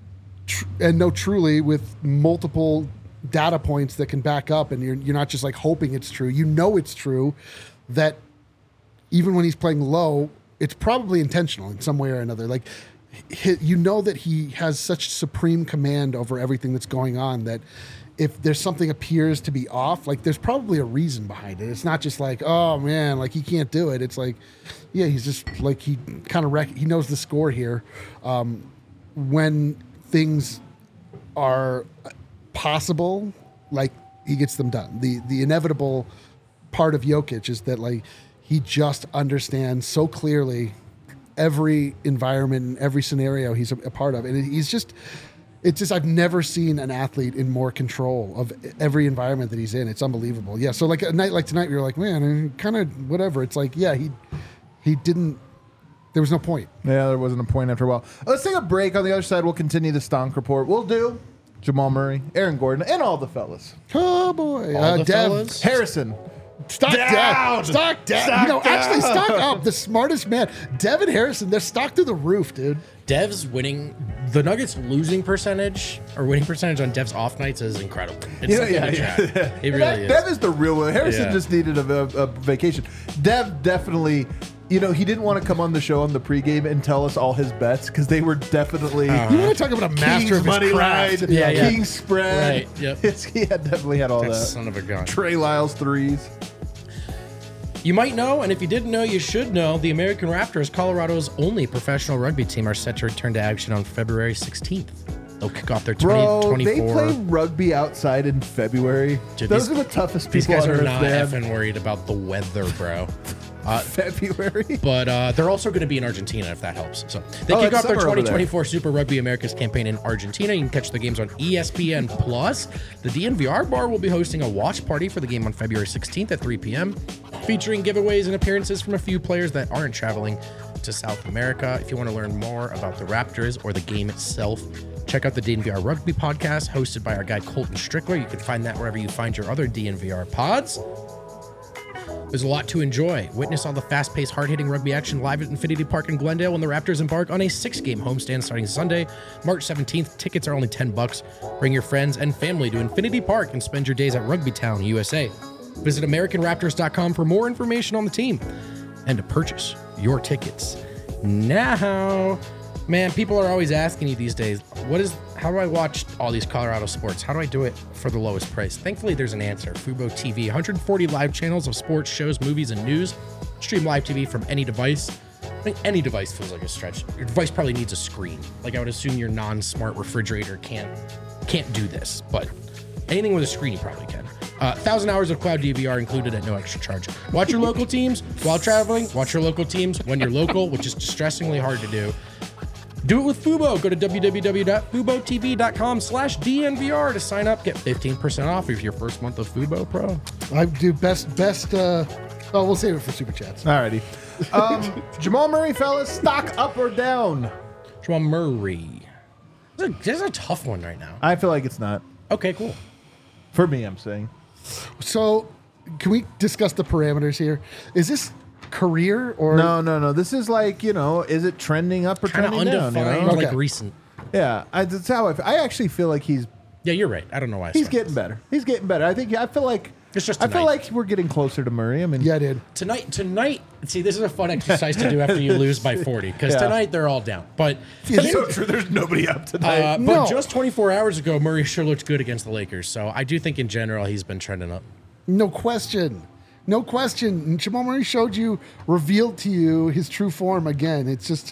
truly with multiple data points that can back up, and you're not just like hoping it's true. You know it's true that even when he's playing low, it's probably intentional in some way or another. Like, you know that he has such supreme command over everything that's going on that if there's something appears to be off, like there's probably a reason behind it. It's not just like, oh man, like he can't do it. It's like, yeah, he's just like, he kind of he knows the score here. When things are possible, like he gets them done. The inevitable part of Jokic is that like he just understands so clearly every environment and every scenario he's a part of, and it's just I've never seen an athlete in more control of every environment that he's in. It's unbelievable. Yeah. So like a night like tonight, you're like, man, kind of whatever. It's like, yeah, he didn't. There was no point. Yeah, there wasn't a point after a while. Let's take a break. On the other side, we'll continue the Stonk Report. We'll do Jamal Murray, Aaron Gordon, and all the fellas. Oh boy, All the Dev. fellas? Harrison, Stock Down. down. Stock down. Stock Actually, down. stock up. The smartest man. Devin Harrison, they're stock through the roof, dude. Dev's winning, the Nuggets losing percentage or winning percentage on Dev's off nights is incredible. It's something to track. It really is. Dev is the real one. Harrison Yeah. just needed a vacation. Dev definitely, he didn't want to come on the show on the pregame and tell us all his bets because they were definitely You want to talk about a master King's of his money craft. line, Yeah, yeah. King's spread. Right, yep. He had definitely had all That that. son of a gun. Trey Lyles threes. You might know, and if you didn't know, you should know, the American Raptors, Colorado's only professional rugby team, are set to return to action on February 16th. They'll kick off their Bro, 2024. they play rugby outside in February. Dude, Those these- are the toughest These people guys on are earth, not man. effing worried about the weather, bro. February. But they're also going to be in Argentina, if that helps. So they Oh, kick it's off their summer over there. 2024 Super Rugby Americas campaign in Argentina. You can catch the games on ESPN Plus. The DNVR bar will be hosting a watch party for the game on February 16th at 3 p.m., featuring giveaways and appearances from a few players that aren't traveling to South America. If you want to learn more about the Raptors or the game itself, check out the DNVR Rugby podcast hosted by our guy Colton Strickler. You can find that wherever you find your other DNVR pods. There's a lot to enjoy. Witness all the fast-paced, hard-hitting rugby action live at Infinity Park in Glendale when the Raptors embark on a 6-game homestand starting Sunday, March 17th. Tickets are only $10. Bring your friends and family to Infinity Park and spend your days at Rugby Town, USA. Visit AmericanRaptors.com for more information on the team and to purchase your tickets now. Man, people are always asking you these days, how do I watch all these Colorado sports? How do I do it for the lowest price? Thankfully, there's an answer. Fubo TV, 140 live channels of sports, shows, movies, and news. Stream live TV from any device. I think any device feels like a stretch. Your device probably needs a screen. Like I would assume your non-smart refrigerator can't do this, but anything with a screen you probably can. 1,000 hours of cloud DVR included at no extra charge. Watch your local teams while traveling. Watch your local teams when you're local, which is distressingly hard to do. Do it with Fubo. Go to www.FuboTV.com/DNVR to sign up. Get 15% off of your first month of Fubo Pro. I do best. We'll save it for super chats. Alrighty. Jamal Murray, fellas, stock up or down? Jamal Murray. This is a tough one right now. I feel like it's not. Okay, cool. For me, I'm saying. So, can we discuss the parameters here? Is this career or No. This is like, is it trending up or Kind of trending down? undefined, Okay. like recent. Yeah, that's how I actually feel like he's Yeah, you're right. I don't know why. I he's started getting better. He's getting better. I feel like It's just I feel tonight. like we're getting closer to Murray. I mean, Yeah, dude. Tonight, see, this is a fun exercise to do after you lose by 40, because Yeah. tonight they're all down. But it's so true. There's nobody up tonight. but No. just 24 hours ago, Murray sure looked good against the Lakers. So I do think in general he's been trending up. No question. No question. And Jamal Murray revealed to you his true form again. It's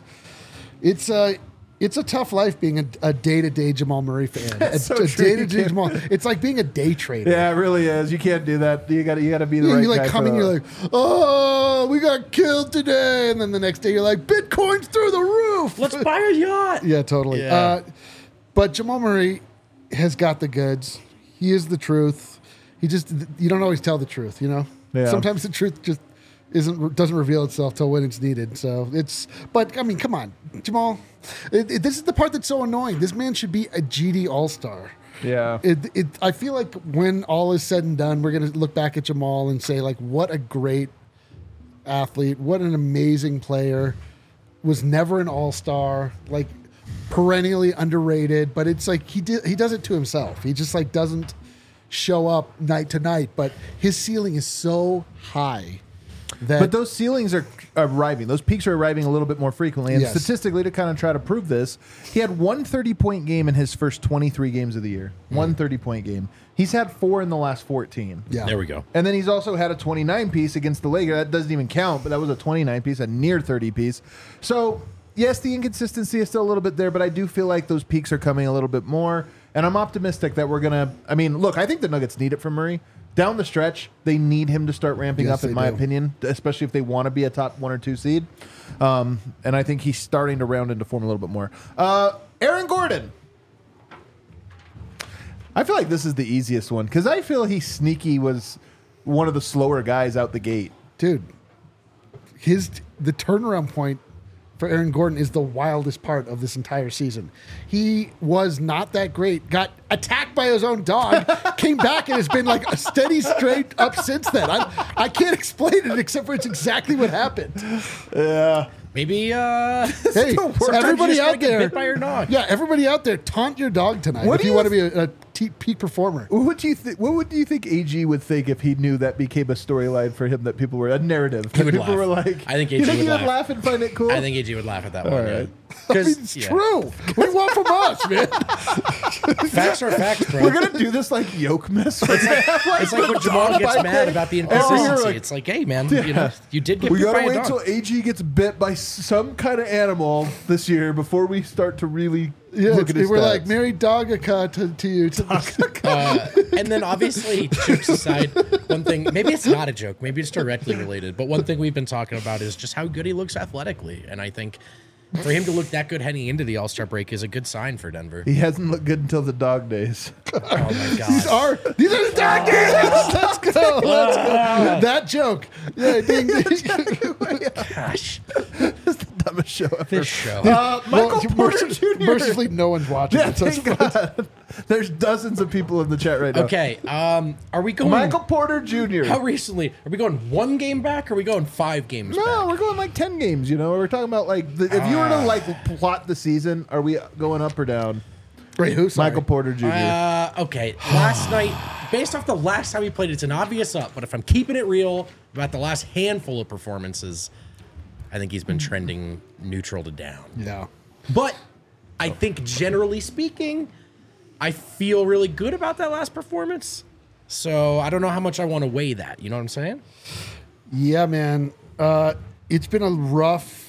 a tough life being a day-to-day Jamal Murray fan. It's so a true. day-to-day Jamal. It's like being a day trader. yeah, it really is. You can't do that. You got to be the right You're like guy. coming, for you're like, oh, we got killed today. And then the next day you're like, Bitcoin's through the roof. Let's buy a yacht. Yeah, totally. Yeah. But Jamal Murray has got the goods. He is the truth. You don't always tell the truth, Yeah. Sometimes the truth just doesn't reveal itself till when it's needed. But I mean, come on, Jamal. This is the part that's so annoying. This man should be a GD All-Star. Yeah. I feel like when all is said and done, we're going to look back at Jamal and say, like, what a great athlete, what an amazing player, was never an all-star, like perennially underrated, but it's like he does it to himself. He just like doesn't show up night to night, but his ceiling is so high that But those ceilings are arriving. Those peaks are arriving a little bit more frequently. And Yes. statistically, to kind of try to prove this, he had one 30-point game in his first 23 games of the year. One 30-point game. He's had 4 in the last 14. yeah. There we go. And then he's also had a 29-piece against the Lakers. That doesn't even count, but that was a 29-piece, a near 30-piece. So, yes, the inconsistency is still a little bit there, but I do feel like those peaks are coming a little bit more. And I'm optimistic that we're going to... I mean, look, I think the Nuggets need it from Murray. Down the stretch, they need him to start ramping Yes, up, in they my do. opinion, especially if they want to be a top 1 or 2 seed. And I think he's starting to round into form a little bit more. Aaron Gordon. I feel like this is the easiest one because I feel he sneaky was one of the slower guys out the gate. Dude, the turnaround point for Aaron Gordon is the wildest part of this entire season. He was not that great, got attacked by his own dog, came back and has been like a steady straight up since then. I can't explain it except for it's exactly what happened. Yeah. Maybe Hey, sometimes you everybody just gotta out get there, bit by your dog. yeah, everybody out there, taunt your dog tonight What if do you you want to be a peak performer. What would you think AG would think if he knew that became a storyline for him, that people were a narrative? He would people laugh. were like, I think you AG think would he would laugh. laugh and find it cool? I think AG would laugh at that All one. right. I mean, 'Cause, it's yeah. true. What do you want from us, man? Facts are facts, bro. We're gonna do this like yoke mess. It's like when Jamal gets mad about the Every year, inconsistency. like, It's like, hey, man, you know, you did get we bit gotta by a wait dog. till AG gets bit by some kind of animal this year before we start to really Yeah, look at his we're like stats. Mary Dogaka to you. And then obviously, jokes aside, one thing, maybe it's not a joke, maybe it's directly related, but one thing we've been talking about is just how good he looks athletically. And I think for him to look that good heading into the All-Star break is a good sign for Denver. He hasn't looked good until the dog days. Oh my These God. are the dog days. Let's go. Let's go. That joke. Yeah, ding, ding. Gosh, It's the dumbest show ever. this show. Michael Well, Porter Jr. Mercifully, no one's watching. Yeah, it, so it's thank fine. God. There's dozens of people in the chat right now. Okay, are we going... Michael Porter Jr. How recently? Are we going 1 game back or are we going 5 games No, back? we're going like 10 games, you know. We're talking about like if you were to like plot the season, are we going up or down? Wait, who? Sorry. Michael Porter Jr. Okay, last night, based off the last time we played, it's an obvious up, but if I'm keeping it real about the last handful of performances, I think he's been trending neutral to down. Yeah. But I think generally speaking, I feel really good about that last performance. So I don't know how much I want to weigh that. You know what I'm saying? Yeah, man. It's been a rough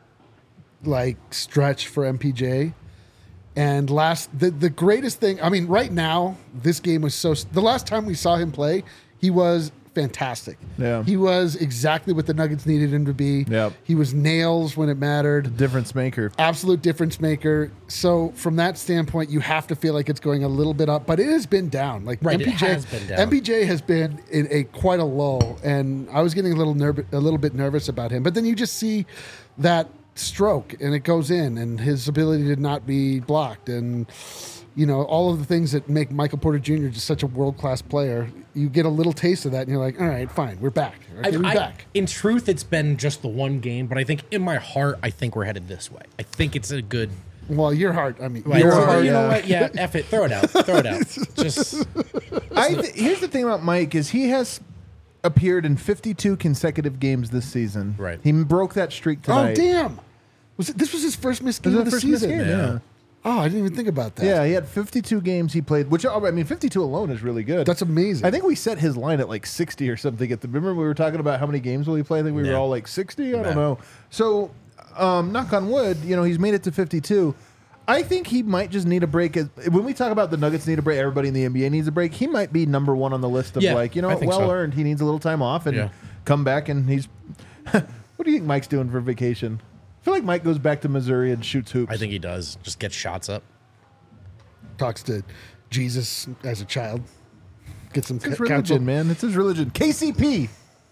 stretch for MPJ. And the greatest thing, I mean, right now, this game was the last time we saw him play, he was fantastic. Yeah. He was exactly what the Nuggets needed him to be. Yep. He was nails when it mattered. Difference maker. Absolute difference maker. So from that standpoint, you have to feel like it's going a little bit up, but it has been down. Like Right, MPJ, it has been down. MPJ has been in quite a lull, and I was getting a little bit nervous about him. But then you just see that stroke, and it goes in, and his ability to not be blocked, and all of the things that make Michael Porter Jr. just such a world-class player. You get a little taste of that, and you're like, all right, fine, we're back. Okay, we're back. In truth, it's been just the 1 game, but I think in my heart, I think we're headed this way. I think it's a good... Well, your heart, I mean, Right, your so, heart. you know what? Yeah, F it. Throw it out. Throw it out. Just... Here's the thing about Mike is he has appeared in 52 consecutive games this season. Right. He broke that streak tonight. Oh, damn. This was his first missed This game is of the the first missed season. game, yeah. Oh, I didn't even think about that. Yeah, he had 52 games he played, which, I mean, 52 alone is really good. That's amazing. I think we set his line at like 60 or something. Remember we were talking about how many games will he play? I think we were Yeah. all like 60. I Yeah. don't know. So, knock on wood, he's made it to 52. I think he might just need a break. When we talk about the Nuggets need a break, everybody in the NBA needs a break. He might be number 1 on the list of Yeah, I think so. well earned. He needs a little time off and Yeah. come back. And he's. What do you think Mike's doing for vacation? I feel like Mike goes back to Missouri and shoots hoops. I think he does. Just get shots up. Talks to Jesus as a child. Get some It's his counsel. religion, man. It's his religion. KCP.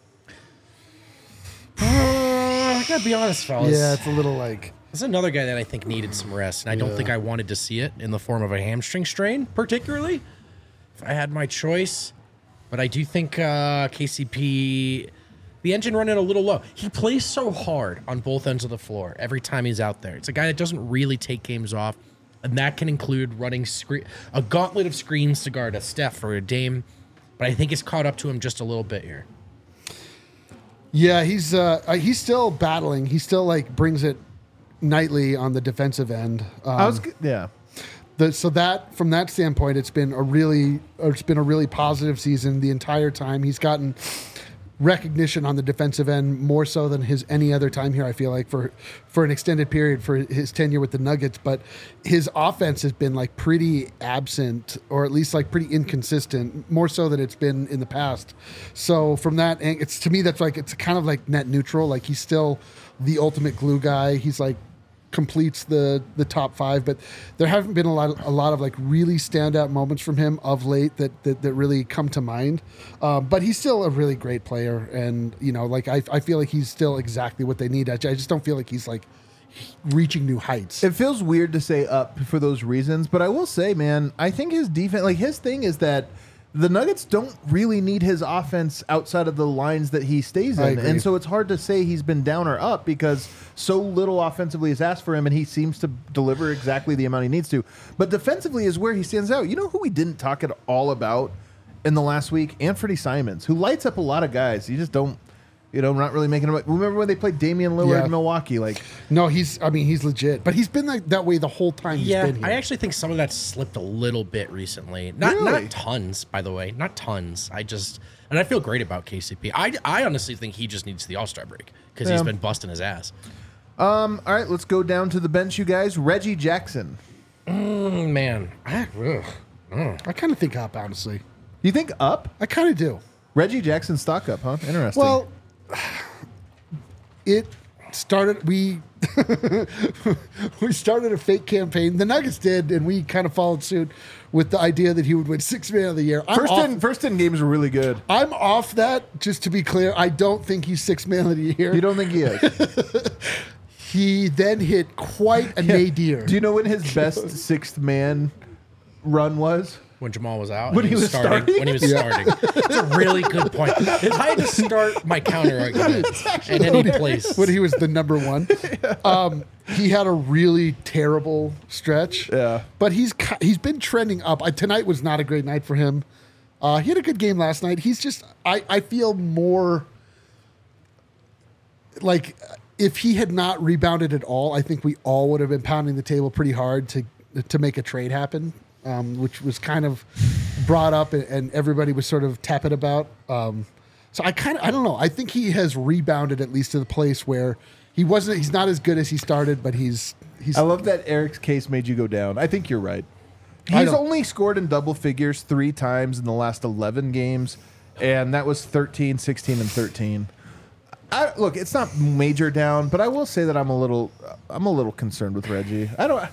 I gotta be honest, fellas. Yeah, it's a little like. There's another guy that I think needed some rest, and I don't think I wanted to see it in the form of a hamstring strain, particularly if I had my choice. But I do think KCP, the engine running a little low. He plays so hard on both ends of the floor every time he's out there. It's a guy that doesn't really take games off, and that can include running a gauntlet of screens to guard a Steph or a Dame. But I think it's caught up to him just a little bit here. Yeah, he's still battling. He still brings it nightly on the defensive end. Yeah. So that from that standpoint, it's been a really positive season the entire time. He's gotten recognition on the defensive end more so than any other time here. I feel like for an extended period for his tenure with the Nuggets, but his offense has been pretty absent, or at least pretty inconsistent, more so than it's been in the past. So from that, it's to me that's it's kind of net neutral. He's still the ultimate glue guy. He's completes the top 5, but there haven't been a lot of really standout moments from him of late that really come to mind. But he's still a really great player, and I feel like he's still exactly what they need. I just don't feel like he's reaching new heights. It feels weird to say up for those reasons, but I will say, man, I think his defense, like his thing is that the Nuggets don't really need his offense outside of the lines that he stays I in. agree. And so it's hard to say he's been down or up because so little offensively is asked for him and he seems to deliver exactly the amount he needs to. But defensively is where he stands out. You know who we didn't talk at all about in the last week? Anthony Simons, who lights up a lot of guys. You just don't, not really making him. Remember when they played Damian Lillard in Milwaukee? Like, no, he's legit, but he's been like that way the whole time he's been here. I actually think some of that slipped a little bit recently. Not tons, by the way, not tons. And I feel great about KCP. I honestly think he just needs the All-Star break because he's been busting his ass. all right, let's go down to the bench, you guys. Reggie Jackson. Man, I kind of think up, honestly. You think up? I kind of do. Reggie Jackson stock up, huh? Interesting. Well, it started. We started a fake campaign. The Nuggets did, and we kind of followed suit with the idea that he would win Sixth Man of the Year. First 10 games were really good. I'm off that. Just to be clear, I don't think he's Sixth Man of the Year. You don't think he is? He then hit quite a nadir. Do you know when his best sixth man run was? when Jamal was out. When he was starting? When he was starting. It's a really good point. If I had to start my counter argument in any place. When he was the number one. He had a really terrible stretch. Yeah. But he's been trending up. Tonight was not a great night for him. He had a good game last night. He's just, I feel more like if he had not rebounded at all, I think we all would have been pounding the table pretty hard to make a trade happen, which was kind of brought up and everybody was sort of tepid about. So I don't know. I think he has rebounded at least to the place where he's not as good as he started, but he's. I love that Eric's case made you go down. I think you're right. He's only scored in double figures 3 times in the last 11 games, and that was 13, 16, and 13. Look, it's not major down, but I will say that I'm a little concerned with Reggie.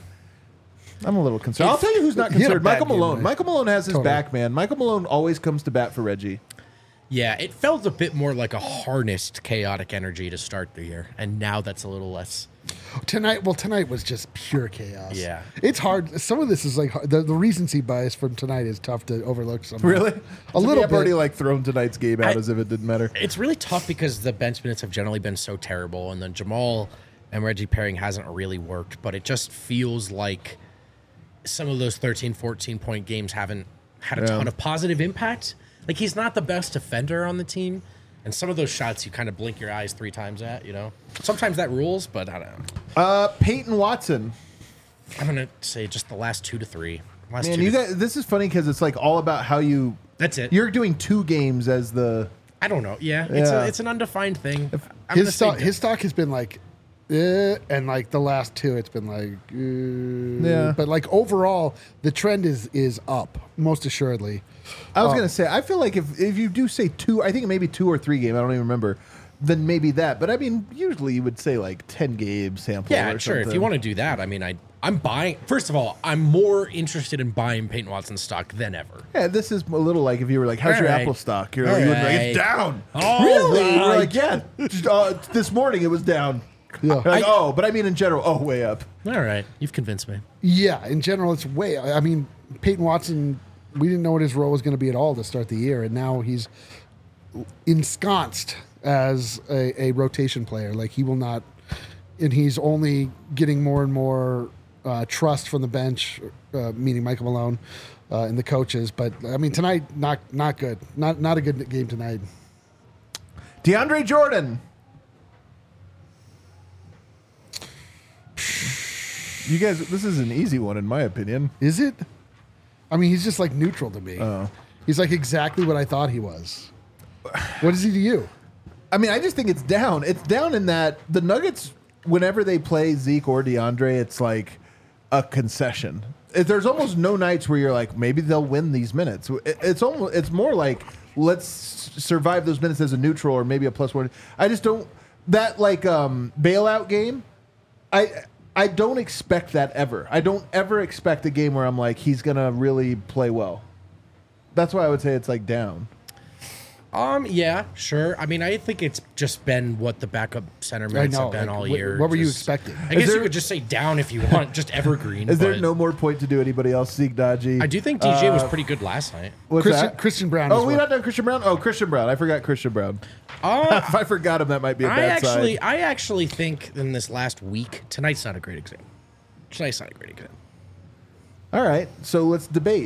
I'm a little concerned. I'll tell you who's not concerned. Michael Malone. Right? Michael Malone has his back, man. Michael Malone always comes to bat for Reggie. Yeah, it felt a bit more like a harnessed chaotic energy to start the year, and now that's a little less. Tonight was just pure chaos. Yeah. It's hard. Some of this is like the recency bias from tonight is tough to overlook. Somehow. Really? A little I've bit. already thrown tonight's game out as if it didn't matter. It's really tough because the bench minutes have generally been so terrible, and the Jamal and Reggie pairing hasn't really worked, but it just feels like some of those 13, 14-point games haven't had a ton of positive impact. Like, he's not the best defender on the team, and some of those shots you kind of blink your eyes 3 times at, Sometimes that rules, but I don't know. Peyton Watson. I'm going to say just the last 2 to 3. Man, you guys, this is funny because it's all about how you... That's it. You're doing 2 games as the... I don't know. Yeah, it's an undefined thing. His stock has been and the last 2, it's been Yeah. But overall, the trend is up, most assuredly. I was going to say, I feel like if you do say 2, I think maybe 2 or 3 games, I don't even remember, then maybe that. But I mean, usually you would say 10 game sample. Yeah, or sure. something. If you want to do that, I mean, I'm buying. First of all, I'm more interested in buying Peyton Watson stock than ever. Yeah, this is a little like if you were how's your All right. Apple stock? You're All you would be right. it's down. All Really? You're right. yeah. This morning it was down. Yeah. You're but I mean in general, way up. All right, you've convinced me. Yeah, in general, it's way. I mean, Peyton Watson, we didn't know what his role was going to be at all to start the year, and now he's ensconced as a rotation player. He will not, and he's only getting more and more trust from the bench, meaning Michael Malone and the coaches. But I mean, tonight, not good. Not a good game tonight. DeAndre Jordan. You guys, this is an easy one in my opinion. Is it? I mean, he's just neutral to me. Oh. He's exactly what I thought he was. What is he to you? I mean, I just think it's down. It's down in that the Nuggets, whenever they play Zeke or DeAndre, it's like a concession. There's almost no nights where you're maybe they'll win these minutes. It's more let's survive those minutes as a neutral or maybe a +1. I just don't that bailout game. I don't expect that ever. I don't ever expect a game where I'm he's gonna really play well. That's why I would say it's down. Yeah, sure. I mean, I think it's just been what the backup center I minutes know. have been like, all what- year. What were you Just- expecting? I guess there- you could just say down if you want, just evergreen. Is there but no more point to do anybody else? Zeke Dodgy. I do think DJ was pretty good last night. What's Christian, that? Christian Brown. Oh, is we what- not done Christian Brown. Oh, Christian Brown. I forgot Christian Brown. If I forgot him, that might be a bad sign. I actually think in this last week, tonight's not a great example. Tonight's not a great example. All right, so let's debate.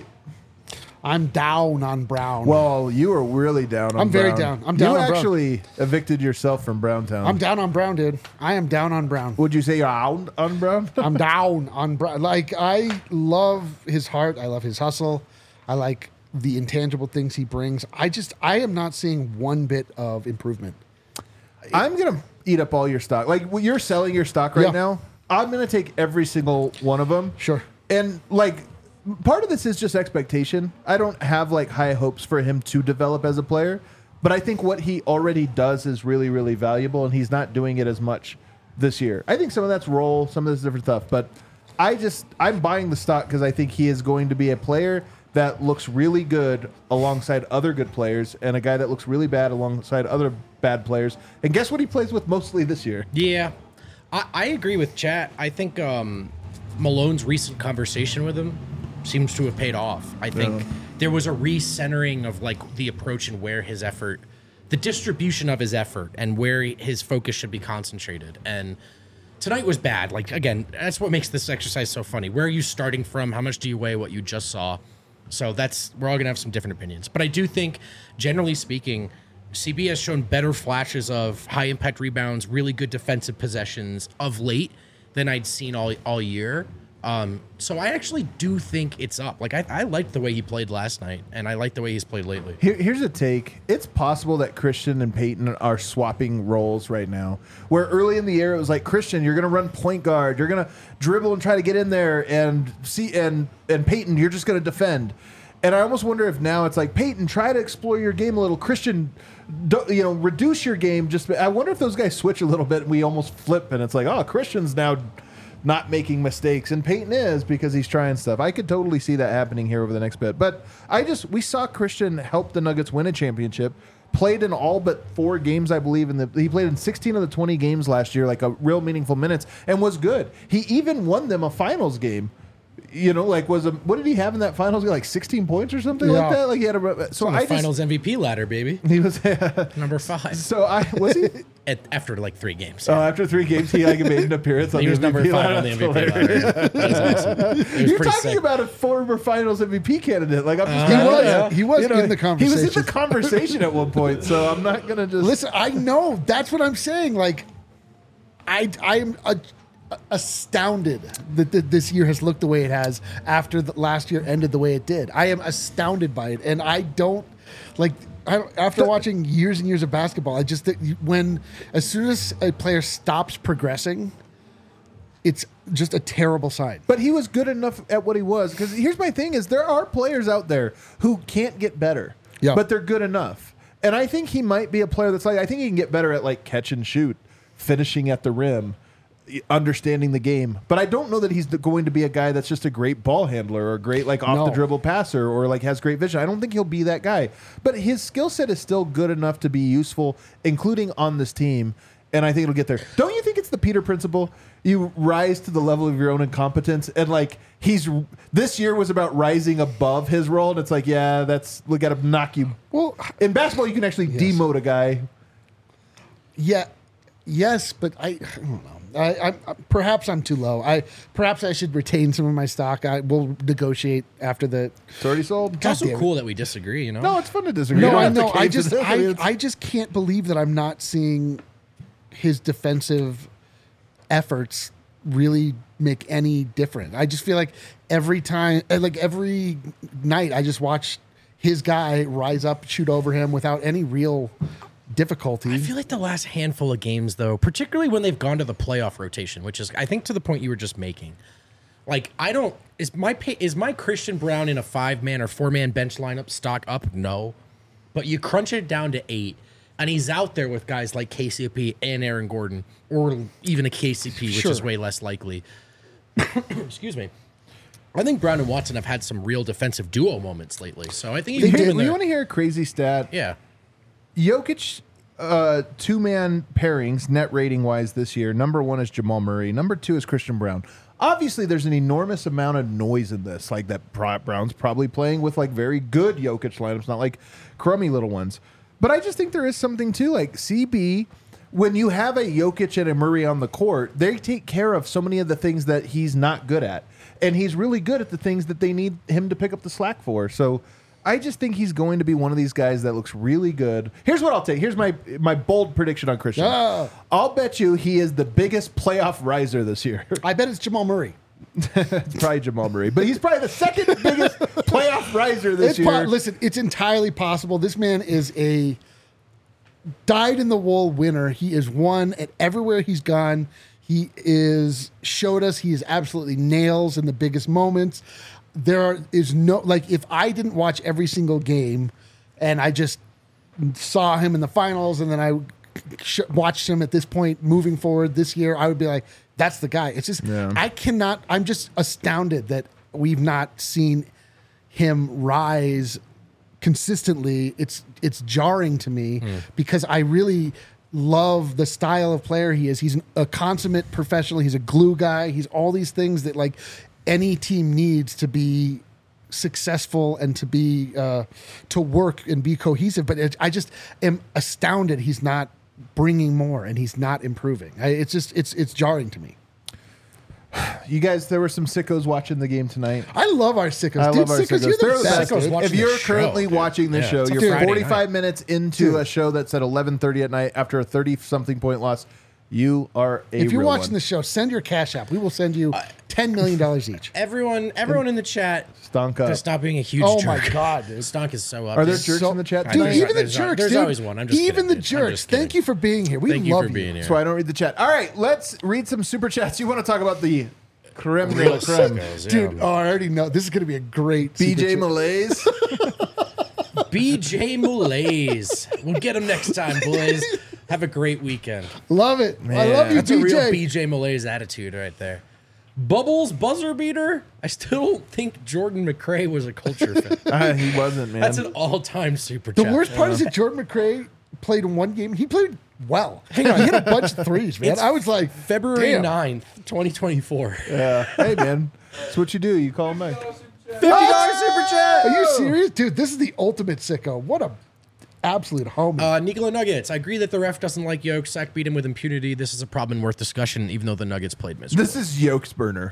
I'm down on Brown. Well, you are really down on I'm very Brown. down. I'm down You on Brown. actually evicted yourself from Browntown. I'm down on Brown, dude. I am down on Brown. Would you say you're out on Brown? I'm down on Brown. Like, I love his heart. I love his hustle. I like the intangible things he brings. I am not seeing one bit of improvement. I'm gonna eat up all your stock. Like you're selling your stock right Yeah. now. I'm gonna take every single one of them. Sure. And like, part of this is just expectation. I don't have like high hopes for him to develop as a player, but I think what he already does is really, really valuable, and he's not doing it as much this year. I think some of that's role, some of this different stuff, but I'm buying the stock because I think he is going to be a player that looks really good alongside other good players, and a guy that looks really bad alongside other bad players. And guess what he plays with mostly this year? Yeah, I agree with Chat. I think Malone's recent conversation with him seems to have paid off. I think there was a recentering of like the approach and where his effort, the distribution of his effort, and where his focus should be concentrated. And tonight was bad. Like, again, that's what makes this exercise so funny. Where are you starting from? How much do you weigh what you just saw? So we're all gonna have some different opinions. But I do think, generally speaking, CB has shown better flashes of high impact rebounds, really good defensive possessions of late than I'd seen all year. So I actually do think it's up. Like, I liked the way he played last night, and I like the way he's played lately. Here's a take. It's possible that Christian and Peyton are swapping roles right now. Where early in the year it was like, Christian, you're going to run point guard, you're going to dribble and try to get in there, and Peyton, you're just going to defend. And I almost wonder if now it's like, Peyton, try to explore your game a little. Christian, reduce your game. I wonder if those guys switch a little bit and we almost flip, and it's like, oh, Christian's now not making mistakes, and Peyton is because he's trying stuff. I could totally see that happening here over the next bit. But we saw Christian help the Nuggets win a championship. Played in all but 4 games, I believe. He played in 16 of the 20 games last year, like a real meaningful minutes, and was good. He even won them a finals game. What did he have in that finals game? Like 16 points or something like that. Like he had Finals MVP ladder, baby. He was Number 5. So was he? After like 3 games. Oh, after 3 games, he made an appearance on He the was MVP number 5 ladder. on the That's MVP hilarious. ladder. That was awesome. It was You're pretty talking sick. about a former Finals MVP candidate. Like I'm just He was in the He was in conversation. the conversation at one point. So I'm not gonna just Listen, I know. That's what I'm saying. Like, I'm astounded that this year has looked the way it has after the last year ended the way it did. I am astounded by it, and after watching years and years of basketball, I just think as soon as a player stops progressing, it's just a terrible sign. But he was good enough at what he was. Because here's my thing: is there are players out there who can't get better, Yeah. but they're good enough. And I think he might be a player that's like, I think he can get better at like catch and shoot, finishing at the rim, understanding the game. But I don't know that he's going to be a guy that's just a great ball handler or a great like off the dribble passer or like has great vision. I don't think he'll be that guy. But his skill set is still good enough to be useful, including on this team. And I think it'll get there. Don't you think it's the Peter principle? You rise to the level of your own incompetence, and like this year was about rising above his role, and it's like, yeah, we got to knock you. Well, In basketball, you can actually demote a guy. yeah, yes, but I don't know. I perhaps I'm too low. Perhaps I should retain some of my stock. I will negotiate after the. It's already sold. It's also damn it. cool that we disagree, you know? No, it's fun to disagree. No, You don't I have to know. cave to this. I just can't believe that I'm not seeing his defensive efforts really make any difference. I just feel like every night, I just watch his guy rise up, shoot over him without any real difficulty. I feel like the last handful of games, though, particularly when they've gone to the playoff rotation, which is, I think, to the point you were just making. Like, is my Christian Brown in a 5-man or 4-man bench lineup stock up? No. But you crunch it down to 8, and he's out there with guys like KCP and Aaron Gordon, or even a KCP, which Sure. is way less likely. Excuse me. I think Brown and Watson have had some real defensive duo moments lately, so I think You he's moving want there. to hear a crazy stat? Yeah. Jokic two-man pairings net rating wise this year, number 1 is Jamal Murray, number 2 is Christian Brown. Obviously, there's an enormous amount of noise in this, like that Brown's probably playing with like very good Jokic lineups, not like crummy little ones. But I just think there is something to like CB. When you have a Jokic and a Murray on the court, they take care of so many of the things that he's not good at. And he's really good at the things that they need him to pick up the slack for. So I just think he's going to be one of these guys that looks really good. Here's what I'll take. Here's my bold prediction on Christian. I'll bet you he is the biggest playoff riser this year. I bet it's Jamal Murray. It's probably Jamal Murray, but he's probably the second biggest playoff riser this year. Listen, it's entirely possible. This man is a dyed-in-the-wool winner. He is won at everywhere he's gone. He is showed us he is absolutely nails in the biggest moments. Is no, like, if I didn't watch every single game and I just saw him in the finals and then I watched him at this point moving forward this year, I would be like, that's the guy. It's just, I'm just astounded that we've not seen him rise consistently. It's jarring to me because I really love the style of player he is. He's a consummate professional. He's a glue guy. He's all these things that like any team needs to be successful and to be to work and be cohesive. But I just am astounded he's not bringing more and he's not improving. It's jarring to me. You guys, there were some sickos watching the game tonight. I love our sickos. I Dude, love our sickos. You're They're the best. Sickos If you're currently dude. watching this show, It's you're Friday 45 night. minutes into a show that's at 11:30 at night after a 30-something point loss. You are a If you're real watching one. the show, send your cash app. We will send you $10 million each. Everyone in the chat, Stonk up. to stop being a huge Oh jerk. my God, dude. Stonk is so up. Are there He's jerks So- in the chat Dude, tonight? even the There's jerks, there's dude. always one. I'm just even kidding, the dude. I'm jerks. just kidding. Thank you for being here. We Thank you love for being here. That's why I don't read the chat. All right, let's read some super chats. You want to talk about the creme de la Real creme? sickos, yeah. Dude, I already know. This is going to be a great BJ super chat. Malaise. BJ Malaise. We'll get him next time, boys. Have a great weekend. Love it. I love you, That's a real BJ. BJ Malaise attitude right there. Bubbles buzzer beater. I still don't think Jordan McRae was a culture fit. He wasn't, man. That's an all-time super The chat. worst part is that Jordan McRae played in one game. He played well. Hang on, he hit a bunch of threes, man. It's I was like, February damn. 9th, 2024. Hey, man. That's what you do. You call him back. $50 super chat. Are you serious? Dude, this is the ultimate sicko. What a absolute homie. Nikola Nuggets. I agree that the ref doesn't like Yoke. Sack beat him with impunity. This is a problem worth discussion, even though the Nuggets played miserable. This is Yoke's burner.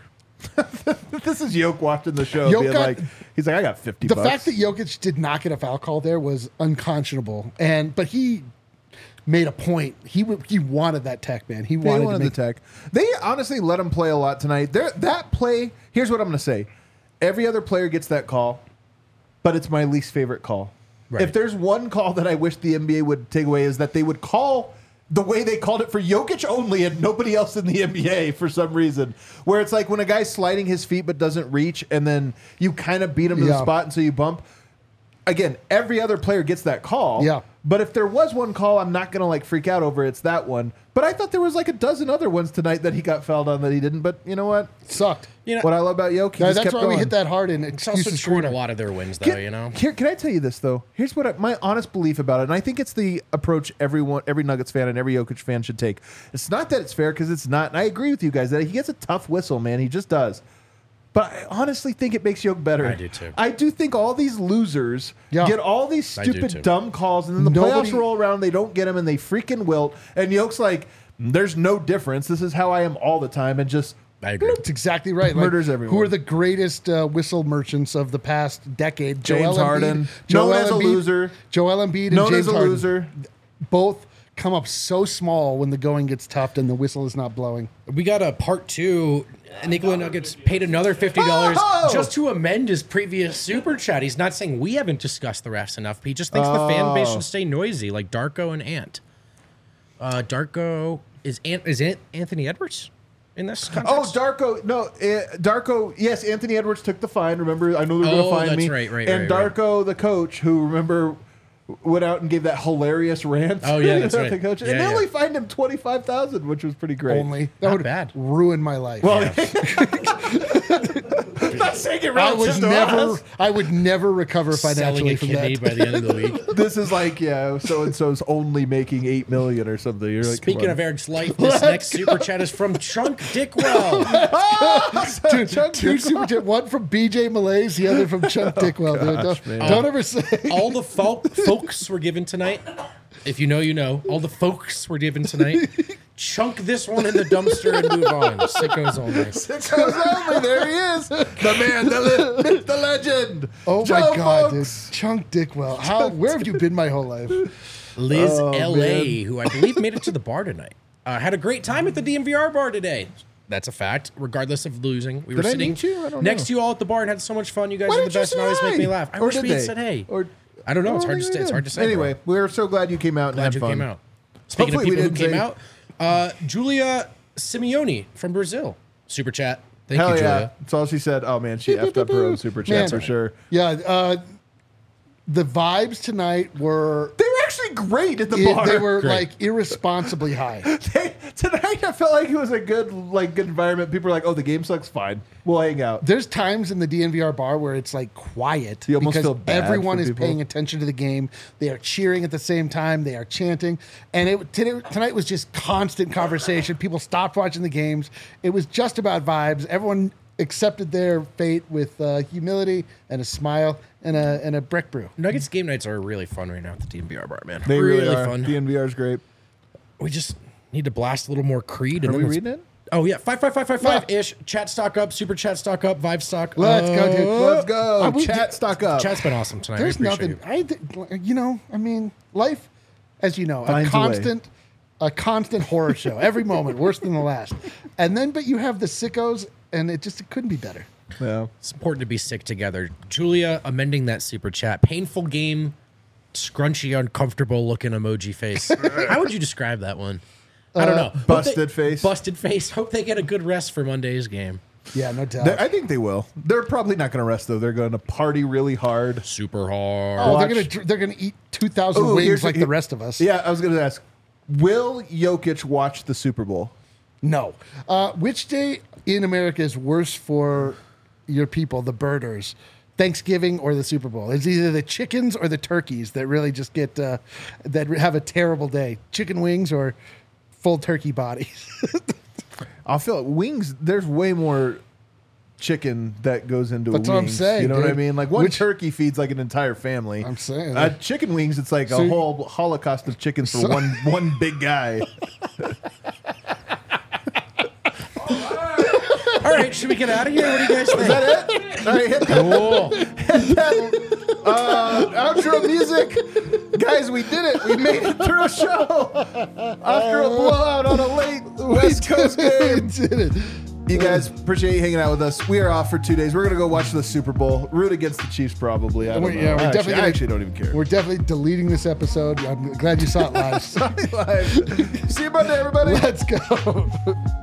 This is Yoke watching the show, Yoke being got- like, he's like, I got 50 the bucks. fact that Jokic did not get a foul call there was unconscionable. But he made a point. He wanted that tech, man. He They wanted, wanted to make the tech. They honestly let him play a lot tonight. That play, here's what I'm going to say. Every other player gets that call, but it's my least favorite call. Right. If there's one call that I wish the NBA would take away is that they would call the way they called it for Jokic only and nobody else in the NBA for some reason. Where it's like when a guy's sliding his feet but doesn't reach and then you kind of beat him to the Yeah. spot and so you bump. Again, every other player gets that call. Yeah. But if there was one call, I'm not going to like freak out over it's that one. But I thought there was like a dozen other ones tonight that he got fouled on that he didn't. But you know what? sucked. You know, What I love about Jokic, he Guys, just that's kept why we going. hit that hard in it's also excuses screwed a corner. lot of their wins, though, you know? Here, can I tell you this though? Here's what my honest belief about it, and I think it's the approach every Nuggets fan and every Jokic fan should take. It's not that it's fair because it's not, and I agree with you guys that he gets a tough whistle, man. He just does. But I honestly think it makes Jokic better. I do too. I do think all these losers Yeah. get all these I do stupid too. dumb calls, and then the Nobody- playoffs roll around, they don't get them, and they freaking wilt. And Jokic's like, "There's no difference. This is how I am all the time," and just I agree. That's exactly right. Murders everyone. Who are the greatest whistle merchants of the past decade? James Joel Harden, Embiid, known as a loser. Joel Embiid and known James as a Harden. loser. Both come up so small when the going gets tough and the whistle is not blowing. We got a part two. Nikola Nuggets paid another $50 Oh! just to amend his previous super chat. He's not saying we haven't discussed the refs enough. He just thinks the fan base should stay noisy, like Darko and Ant. Darko is Anthony Edwards in this context? Oh, Darko. No, Darko. Yes, Anthony Edwards took the fine. Remember, I know they're going to Oh, fine that's me. right, and right. Darko, the coach, who remember went out and gave that hilarious rant. Oh, yeah, that's about right. the coach. Yeah, and they yeah. only fined him $25,000, which was pretty great. Only that Not would bad. ruin my life. Well, saying it I would relative to never. us. I would never recover Selling financially a from kidney that. by the end of the week. This is like, yeah, so and so's only making $8 million or something. You're like, Speaking of Eric's life, this next super chat is from Chunk Dickwell. Two super chat, one from BJ Malays, the other from Chuck Dickwell. Dude. Don't ever say. All the folks were given tonight. If you know, you know. All the folks were given tonight. Chunk this one in the dumpster and move on. Sickos only. Sickos only. There he is. The man, the myth, the legend. Oh Joe my God, dude. Folks. Chunk Dickwell. Where have you been my whole life? Liz Oh, L.A., who I believe made it to the bar tonight, had a great time at the DMVR bar today. That's a fact, regardless of losing. We were Did I sitting meet you? I don't next know. to you all at the bar and had so much fun. You guys Why are the didn't you best and say always hi? make me laugh. I Or wish did we had they? said hey. Or- I don't know. It's hard to think say. we It's did. hard to say. Anyway, bro. we're so glad you came out and Glad had you fun. came out. Speaking Hopefully we of people who didn't came out, Julia Simeone from Brazil. Super chat. Thank Hell you, yeah. Julia. That's all she said. Oh, man, she effed up her own super chat Man. for sure. Yeah, the vibes tonight were. They were actually great at the bar. They were Great. like irresponsibly high. Tonight, I felt like it was a good environment. People were like, "Oh, the game sucks. Fine, we'll hang out." There's times in the DNVR bar where it's like quiet You almost because feel bad everyone for is people. paying attention to the game. They are cheering at the same time. They are chanting, and tonight was just constant conversation. People stopped watching the games. It was just about vibes. Everyone accepted their fate with humility and a smile and a brick brew. Nuggets game nights are really fun right now at the DMVR bar, man. They really are. fun. DNVR is great. We just need to blast a little more Creed. And Are then we let's- reading it? Oh yeah, 55555 ish. Chat stock up, super chat stock up, vibe stock. Let's go, dude. Let's go. we Chat did- stock up. Chat's been awesome tonight. There's I appreciate nothing. I mean, life, as you know, Finds a constant horror show. Every moment worse than the last. And then, but you have the sickos, and it couldn't be better. Yeah. It's important to be sick together. Julia amending that super chat. Painful game, scrunchy, uncomfortable looking emoji face. How would you describe that one? I don't know. Hope busted face. Busted face. Hope they get a good rest for Monday's game. Yeah, no doubt. I think they will. They're probably not going to rest though. They're going to party really hard. Super hard. Oh, watch- they're gonna eat 2,000 Ooh, wings here's- like the rest of us. Yeah, I was going to ask, will Jokic watch the Super Bowl? No. Which day in America is worse for your people, the birders? Thanksgiving or the Super Bowl? It's either the chickens or the turkeys that really just get that have a terrible day. Chicken wings or full turkey bodies. I'll feel it. Wings, there's way more chicken that goes into That's a what I'm wings. saying, You know what I dude. mean? Like one Which- turkey feeds like an entire family. I'm saying. Chicken wings, it's like So- a whole holocaust of chickens for one big guy. All right, should we get out of here? What do you guys think? Is that it? All right, hit Cool. outro music. Guys, we did it. We made it through a show after a blowout on a late West Coast game. We did it. You guys, appreciate you hanging out with us. We are off for 2 days. We're going to go watch the Super Bowl. Root against the Chiefs, probably. I don't know. We're definitely I gonna- actually don't even care. We're definitely deleting this episode. I'm glad you saw it live. Live. See you Monday, everybody. Let's go.